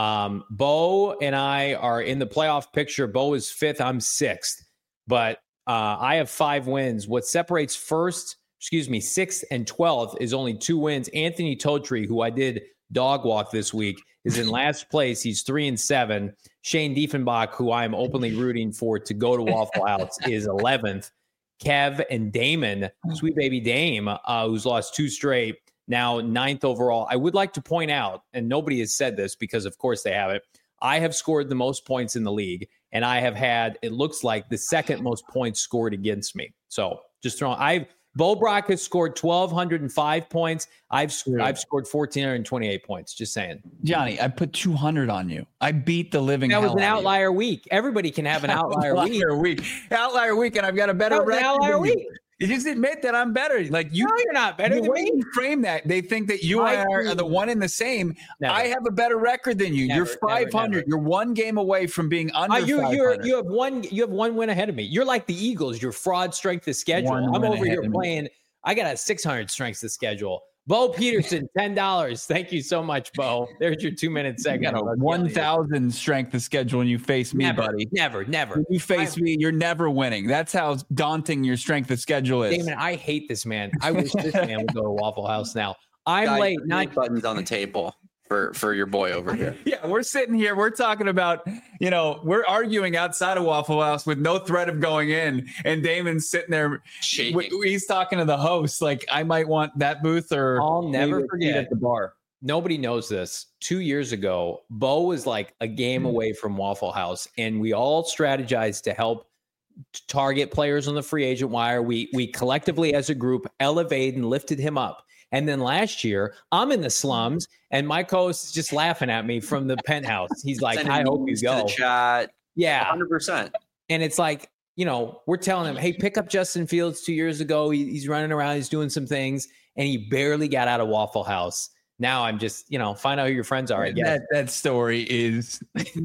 Bo and I are in the playoff picture. Bo is 5th. I'm 6th, but I have 5 wins. What separates 6th and 12th is only 2 wins. Anthony Totri, who I did dog walk this week, is in last place. He's 3-7. Shane Diefenbach, who I'm openly rooting for to go to Waffle House, is 11th. Kev and Damon, sweet baby Dame, who's lost 2 straight, now 9th overall. I would like to point out, and nobody has said this because, of course, they haven't. I have scored the most points in the league, and I have had, it looks like, the second most points scored against me. So just throwing, Bo Brock has scored 1,205 points. I've scored 1,428 points. Just saying. Johnny, I put 200 on you. I beat the living hell out of you. That was an outlier week. Everybody can have an outlier week. Outlier week, and I've got a better record. Outlier week. You just admit that I'm better. Like you, no, you're not better than me. You frame that. They think that you and I are the one and the same. Never. I have a better record than you. You're 500. Never. You're 1 game away from being under 500. You have one win ahead of me. You're like the Eagles. You're fraud strength of schedule. I'm over here playing. I got a 600 strength of schedule. Bo Peterson, $10. Thank you so much, Bo. There's your 2-minute segment. 1,000 strength of schedule when you face me, buddy. Never. When you face me, you're never winning. That's how daunting your strength of schedule is. Damon, I hate this man. I wish this man would go to Waffle House now. I'm late. 9 buttons on the table for your boy over here. Yeah, we're sitting here. We're talking about, we're arguing outside of Waffle House with no threat of going in. And Damon's sitting there shaking. He's talking to the host like, I might want that booth or. I'll never forget at the bar. Nobody knows this. 2 years ago, Bo was like a game away from Waffle House. And we all strategized to help target players on the free agent wire. We collectively as a group elevated and lifted him up. And then last year, I'm in the slums, and my co-host is just laughing at me from the penthouse. He's like, I hope you go. The chat. Yeah. 100%. And it's like, we're telling him, hey, pick up Justin Fields 2 years ago. He's running around. He's doing some things, and he barely got out of Waffle House. Now I'm just, find out who your friends are, I guess. That story is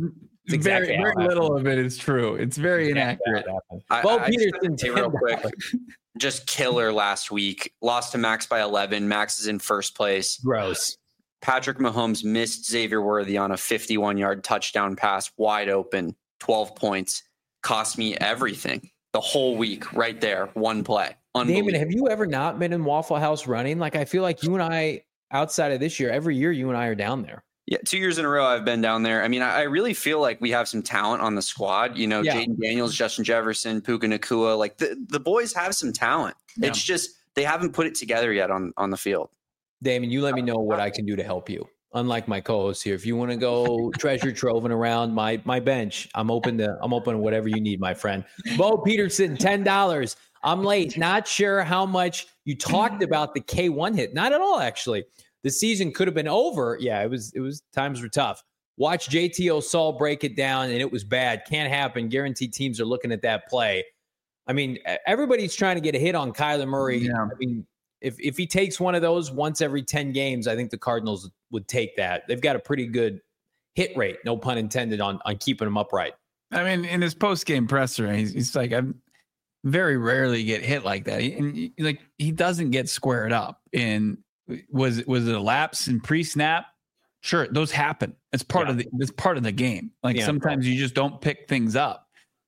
exactly very little of it is true. It's very inaccurate. Bo Peterson, real quick. Just killer last week. Lost to Max by 11. Max is in first place. Gross. Patrick Mahomes missed Xavier Worthy on a 51-yard touchdown pass, wide open, 12 points. Cost me everything. The whole week right there. One play. Damon, have you ever not been in Waffle House running? Like, I feel like you and I, outside of this year, every year you and I are down there. Yeah, 2 years in a row I've been down there. I mean, I really feel like we have some talent on the squad. Jaden Daniels, Justin Jefferson, Puka Nacua. Like the boys have some talent. Yeah. It's just they haven't put it together yet on the field. Damon, you let me know what I can do to help you. Unlike my co-host here, if you want to go treasure troving around my bench, I'm open to whatever you need, my friend. Bo Peterson, $10. I'm late. Not sure how much you talked about the K1 hit. Not at all, actually. The season could have been over. Yeah, it was times were tough. Watch JT Osall break it down, and it was bad. Can't happen. Guaranteed teams are looking at that play. I mean, everybody's trying to get a hit on Kyler Murray. Yeah. I mean, if he takes one of those once every 10 games, I think the Cardinals would take that. They've got a pretty good hit rate, no pun intended, on keeping him upright. I mean, in his post-game presser, he's like, I very rarely get hit like that. And like, he doesn't get squared up. And was it a lapse in pre-snap? Sure, those happen. It's part of the game. Like sometimes you just don't pick things up.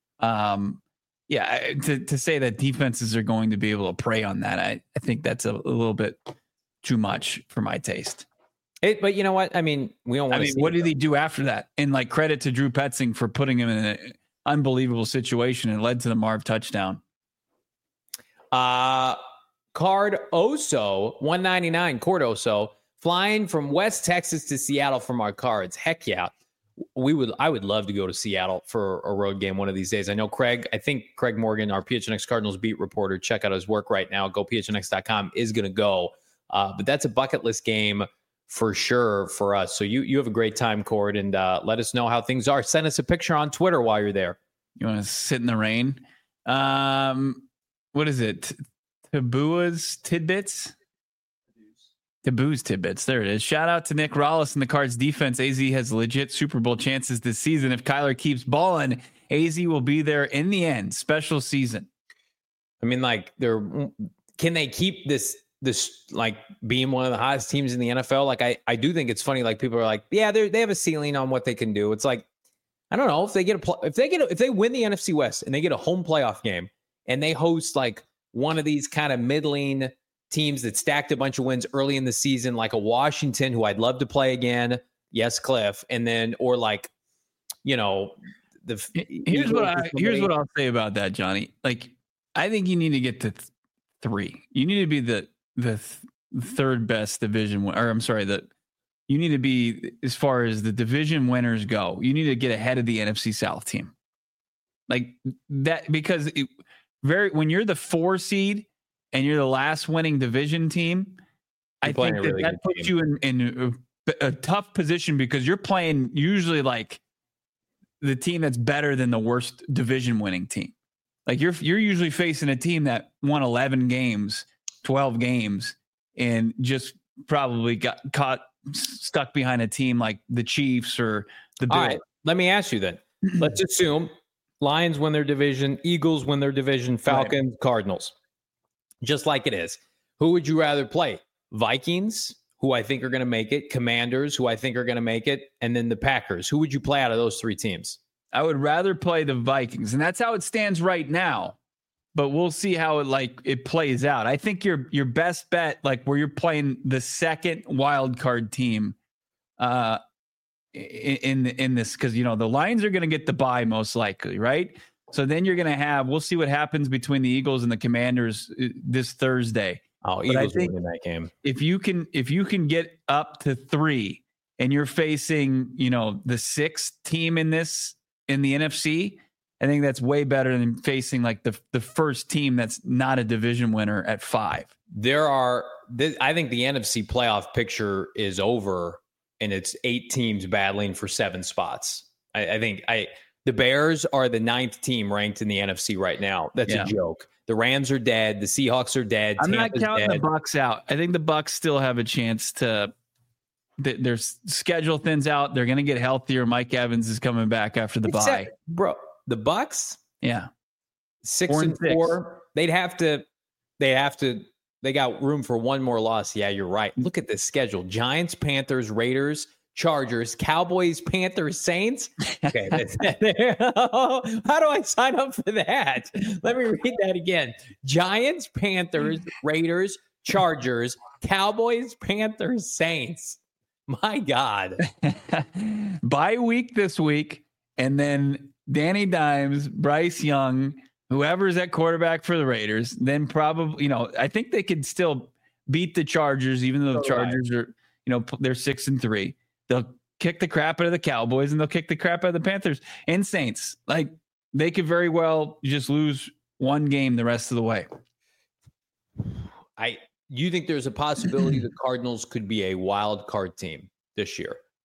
To say that defenses are going to be able to prey on that, I think that's a little bit too much for my taste. But you know what? I mean, we don't want to. What did he do after that? And like, credit to Drew Petzing for putting him in an unbelievable situation and led to the Marv touchdown. Card Oso 199. Cord Oso flying from West Texas to Seattle from our Cards. Heck yeah. I would love to go to Seattle for a road game one of these days. I know Craig Morgan, our PHNX Cardinals beat reporter, check out his work right now. GoPHNX.com is going to go. But that's a bucket list game for sure for us. So you have a great time, Cord, and let us know how things are. Send us a picture on Twitter while you're there. You want to sit in the rain? What is it? Taboo's Tidbits? Taboo's Tidbits. There it is. Shout out to Nick Rollis and the Cards defense. AZ has legit Super Bowl chances this season. If Kyler keeps balling, AZ will be there in the end. Special season. I mean, like, can they keep this like being one of the hottest teams in the NFL? Like, I do think it's funny. Like, people are like, yeah, they have a ceiling on what they can do. It's like, I don't know if they if they win the NFC West and they get a home playoff game and they host like one of these kind of middling teams that stacked a bunch of wins early in the season, like a Washington, who I'd love to play again. Yes, Cliff. And then, or like, you know, here's what I'll say about that, Johnny. Like, I think you need to get to 3. You need to be the third best division, or I'm sorry, you need to be, as far as the division winners go, you need to get ahead of the NFC South team. Like that, because when you're the 4 seed and you're the last winning division team, I think that puts you in a tough position, because you're playing usually like the team that's better than the worst division winning team. Like you're usually facing a team that won 11 games, 12 games, and just probably got stuck behind a team like the Chiefs or the Bills. All right, let me ask you then. Let's assume Lions win their division, Eagles win their division, Falcons, right, Cardinals. Just like it is. Who would you rather play? Vikings, who I think are going to make it, Commanders, who I think are going to make it, and then the Packers. Who would you play out of those 3 teams? I would rather play the Vikings, and that's how it stands right now. But we'll see how it plays out. I think your best bet, like where you're playing the second wild card team, in this, because the Lions are going to get the bye most likely, right? So then you're going to have, we'll see what happens between the Eagles and the Commanders this Thursday. Oh, Eagles will win that game. If you can get up to 3 and you're facing, the 6th team in the NFC, I think that's way better than facing like the first team that's not a division winner at 5. I think the NFC playoff picture is over, and it's 8 teams battling for 7 spots. I think the Bears are the 9th team ranked in the NFC right now. That's a joke. The Rams are dead. The Seahawks are dead. I'm not counting the Bucs out. I think the Bucs still have a chance to. Their schedule thins out. They're going to get healthier. Mike Evans is coming back after the bye. Bro, the Bucs? Yeah. 6-4. They got room for one more loss. Yeah, you're right. Look at this schedule. Giants, Panthers, Raiders, Chargers, Cowboys, Panthers, Saints. Okay. How do I sign up for that? Let me read that again. Giants, Panthers, Raiders, Chargers, Cowboys, Panthers, Saints. My God. Bye week this week. And then Danny Dimes, Bryce Young, whoever's at quarterback for the Raiders, then probably, I think they could still beat the Chargers, even though the Chargers are, they're 6-3. They'll kick the crap out of the Cowboys, and they'll kick the crap out of the Panthers and Saints. Like, they could very well just lose one game the rest of the way. You think there's a possibility the Cardinals could be a wild card team this year,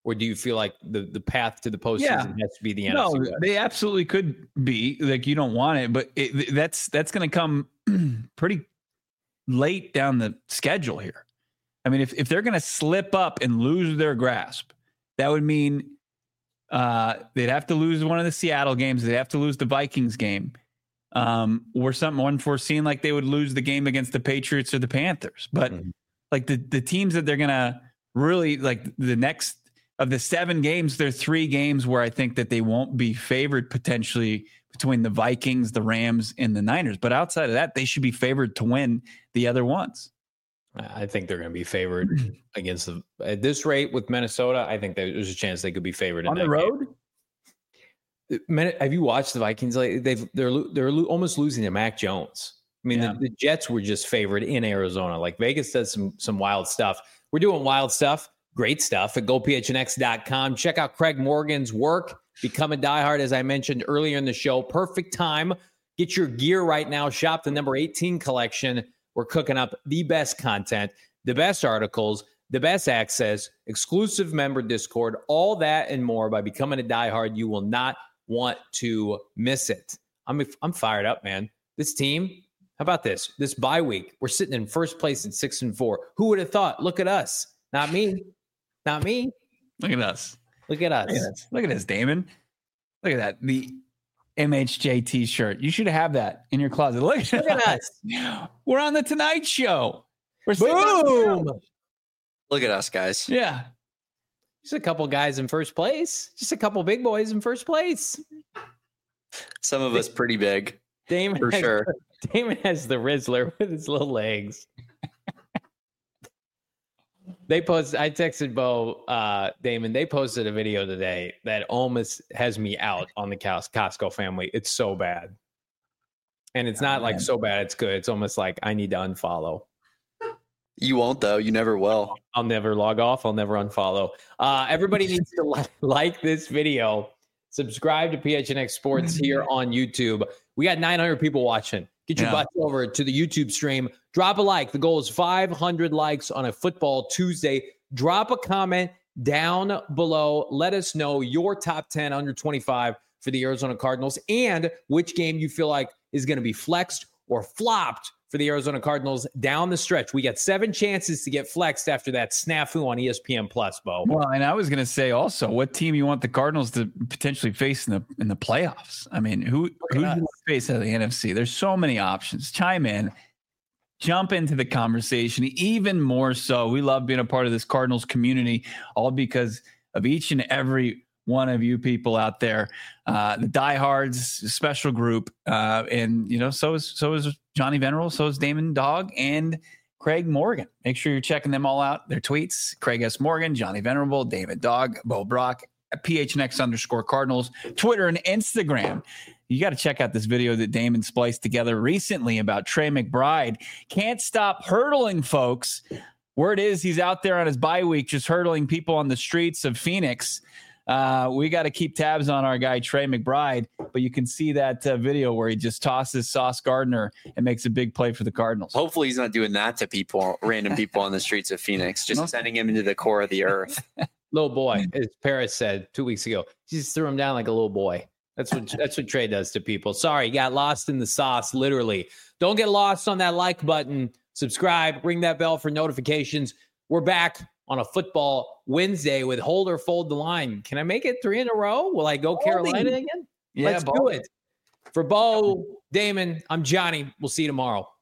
Or do you feel like the path to the postseason has to be the NFC West? They absolutely could be. Like, you don't want it, but that's going to come pretty late down the schedule here. I mean, if they're going to slip up and lose their grasp, that would mean they'd have to lose one of the Seattle games. They'd have to lose the Vikings game, or something unforeseen, like they would lose the game against the Patriots or the Panthers. But like the teams that they're going to really, like, the next of the 7 games, there are 3 games where I think that they won't be favored potentially between the Vikings, the Rams, and the Niners. But outside of that, they should be favored to win the other ones. I think they're going to be favored against at this rate with Minnesota. I think there's a chance they could be favored on the road. Have you watched the Vikings? Like they're almost losing to Mac Jones. I mean, the Jets were just favored in Arizona. Like, Vegas does some wild stuff. We're doing wild stuff, great stuff at GoPHNX.com. Check out Craig Morgan's work. Become a diehard, as I mentioned earlier in the show. Perfect time. Get your gear right now. Shop the number 18 collection. We're cooking up the best content, the best articles, the best access, exclusive member Discord, all that and more by becoming a diehard. You will not want to miss it. I'm fired up, man. This team, how about this? This bye week, we're sitting in first place at 6-4. Who would have thought? Look at us. Not me. Not me. Look at us. Look at us. Look at this, Damon. Look at that. The MHJ t-shirt. You should have that in your closet. Look at us. We're on the Tonight Show. Boom. Look at us, guys. Yeah. Just a couple guys in first place. Just a couple big boys in first place. Some of us pretty big. Damon for sure. Damon has the Rizzler with his little legs. I texted Bo, Damon, they posted a video today that almost has me out on the Costco family. It's so bad. And it's not like so bad it's good. It's almost like I need to unfollow. You won't, though. You never will. I'll never log off. I'll never unfollow. Everybody needs to like this video. Subscribe to PHNX Sports here on YouTube. We got 900 people watching. Get your butts over to the YouTube stream. Drop a like. The goal is 500 likes on a football Tuesday. Drop a comment down below. Let us know your top 10 under 25 for the Arizona Cardinals and which game you feel like is going to be flexed or flopped for the Arizona Cardinals down the stretch. We got 7 chances to get flexed after that snafu on ESPN Plus, Bo. Well, and I was going to say also, what team you want the Cardinals to potentially face in the playoffs? I mean, who do you want to face out of the NFC? There's so many options. Chime in, jump into the conversation. Even more so, we love being a part of this Cardinals community, all because of each and every one of you people out there, the diehards, special group, and so is Johnny Venerable, so is Damon Dog and Craig Morgan. Make sure you're checking them all out. Their tweets: Craig S. Morgan, Johnny Venerable, David Dog, Bo Brock, PHNX_Cardinals, Twitter and Instagram. You got to check out this video that Damon spliced together recently about Trey McBride. Can't stop hurdling, folks. Word is he's out there on his bye week, just hurdling people on the streets of Phoenix. We got to keep tabs on our guy, Trey McBride, but you can see that video where he just tosses Sauce Gardner and makes a big play for the Cardinals. Hopefully he's not doing that to people, random people on the streets of Phoenix, just sending him into the core of the earth. Little boy, as Paris said 2 weeks ago, he just threw him down like a little boy. That's what Trey does to people. Sorry, got lost in the sauce, literally. Don't get lost on that like button. Subscribe, ring that bell for notifications. We're back on a football Wednesday with Hold or Fold the Line. Can I make it 3 in a row? Will I go Carolina again? Yeah, let's do it. For Bo, Damon, I'm Johnny. We'll see you tomorrow.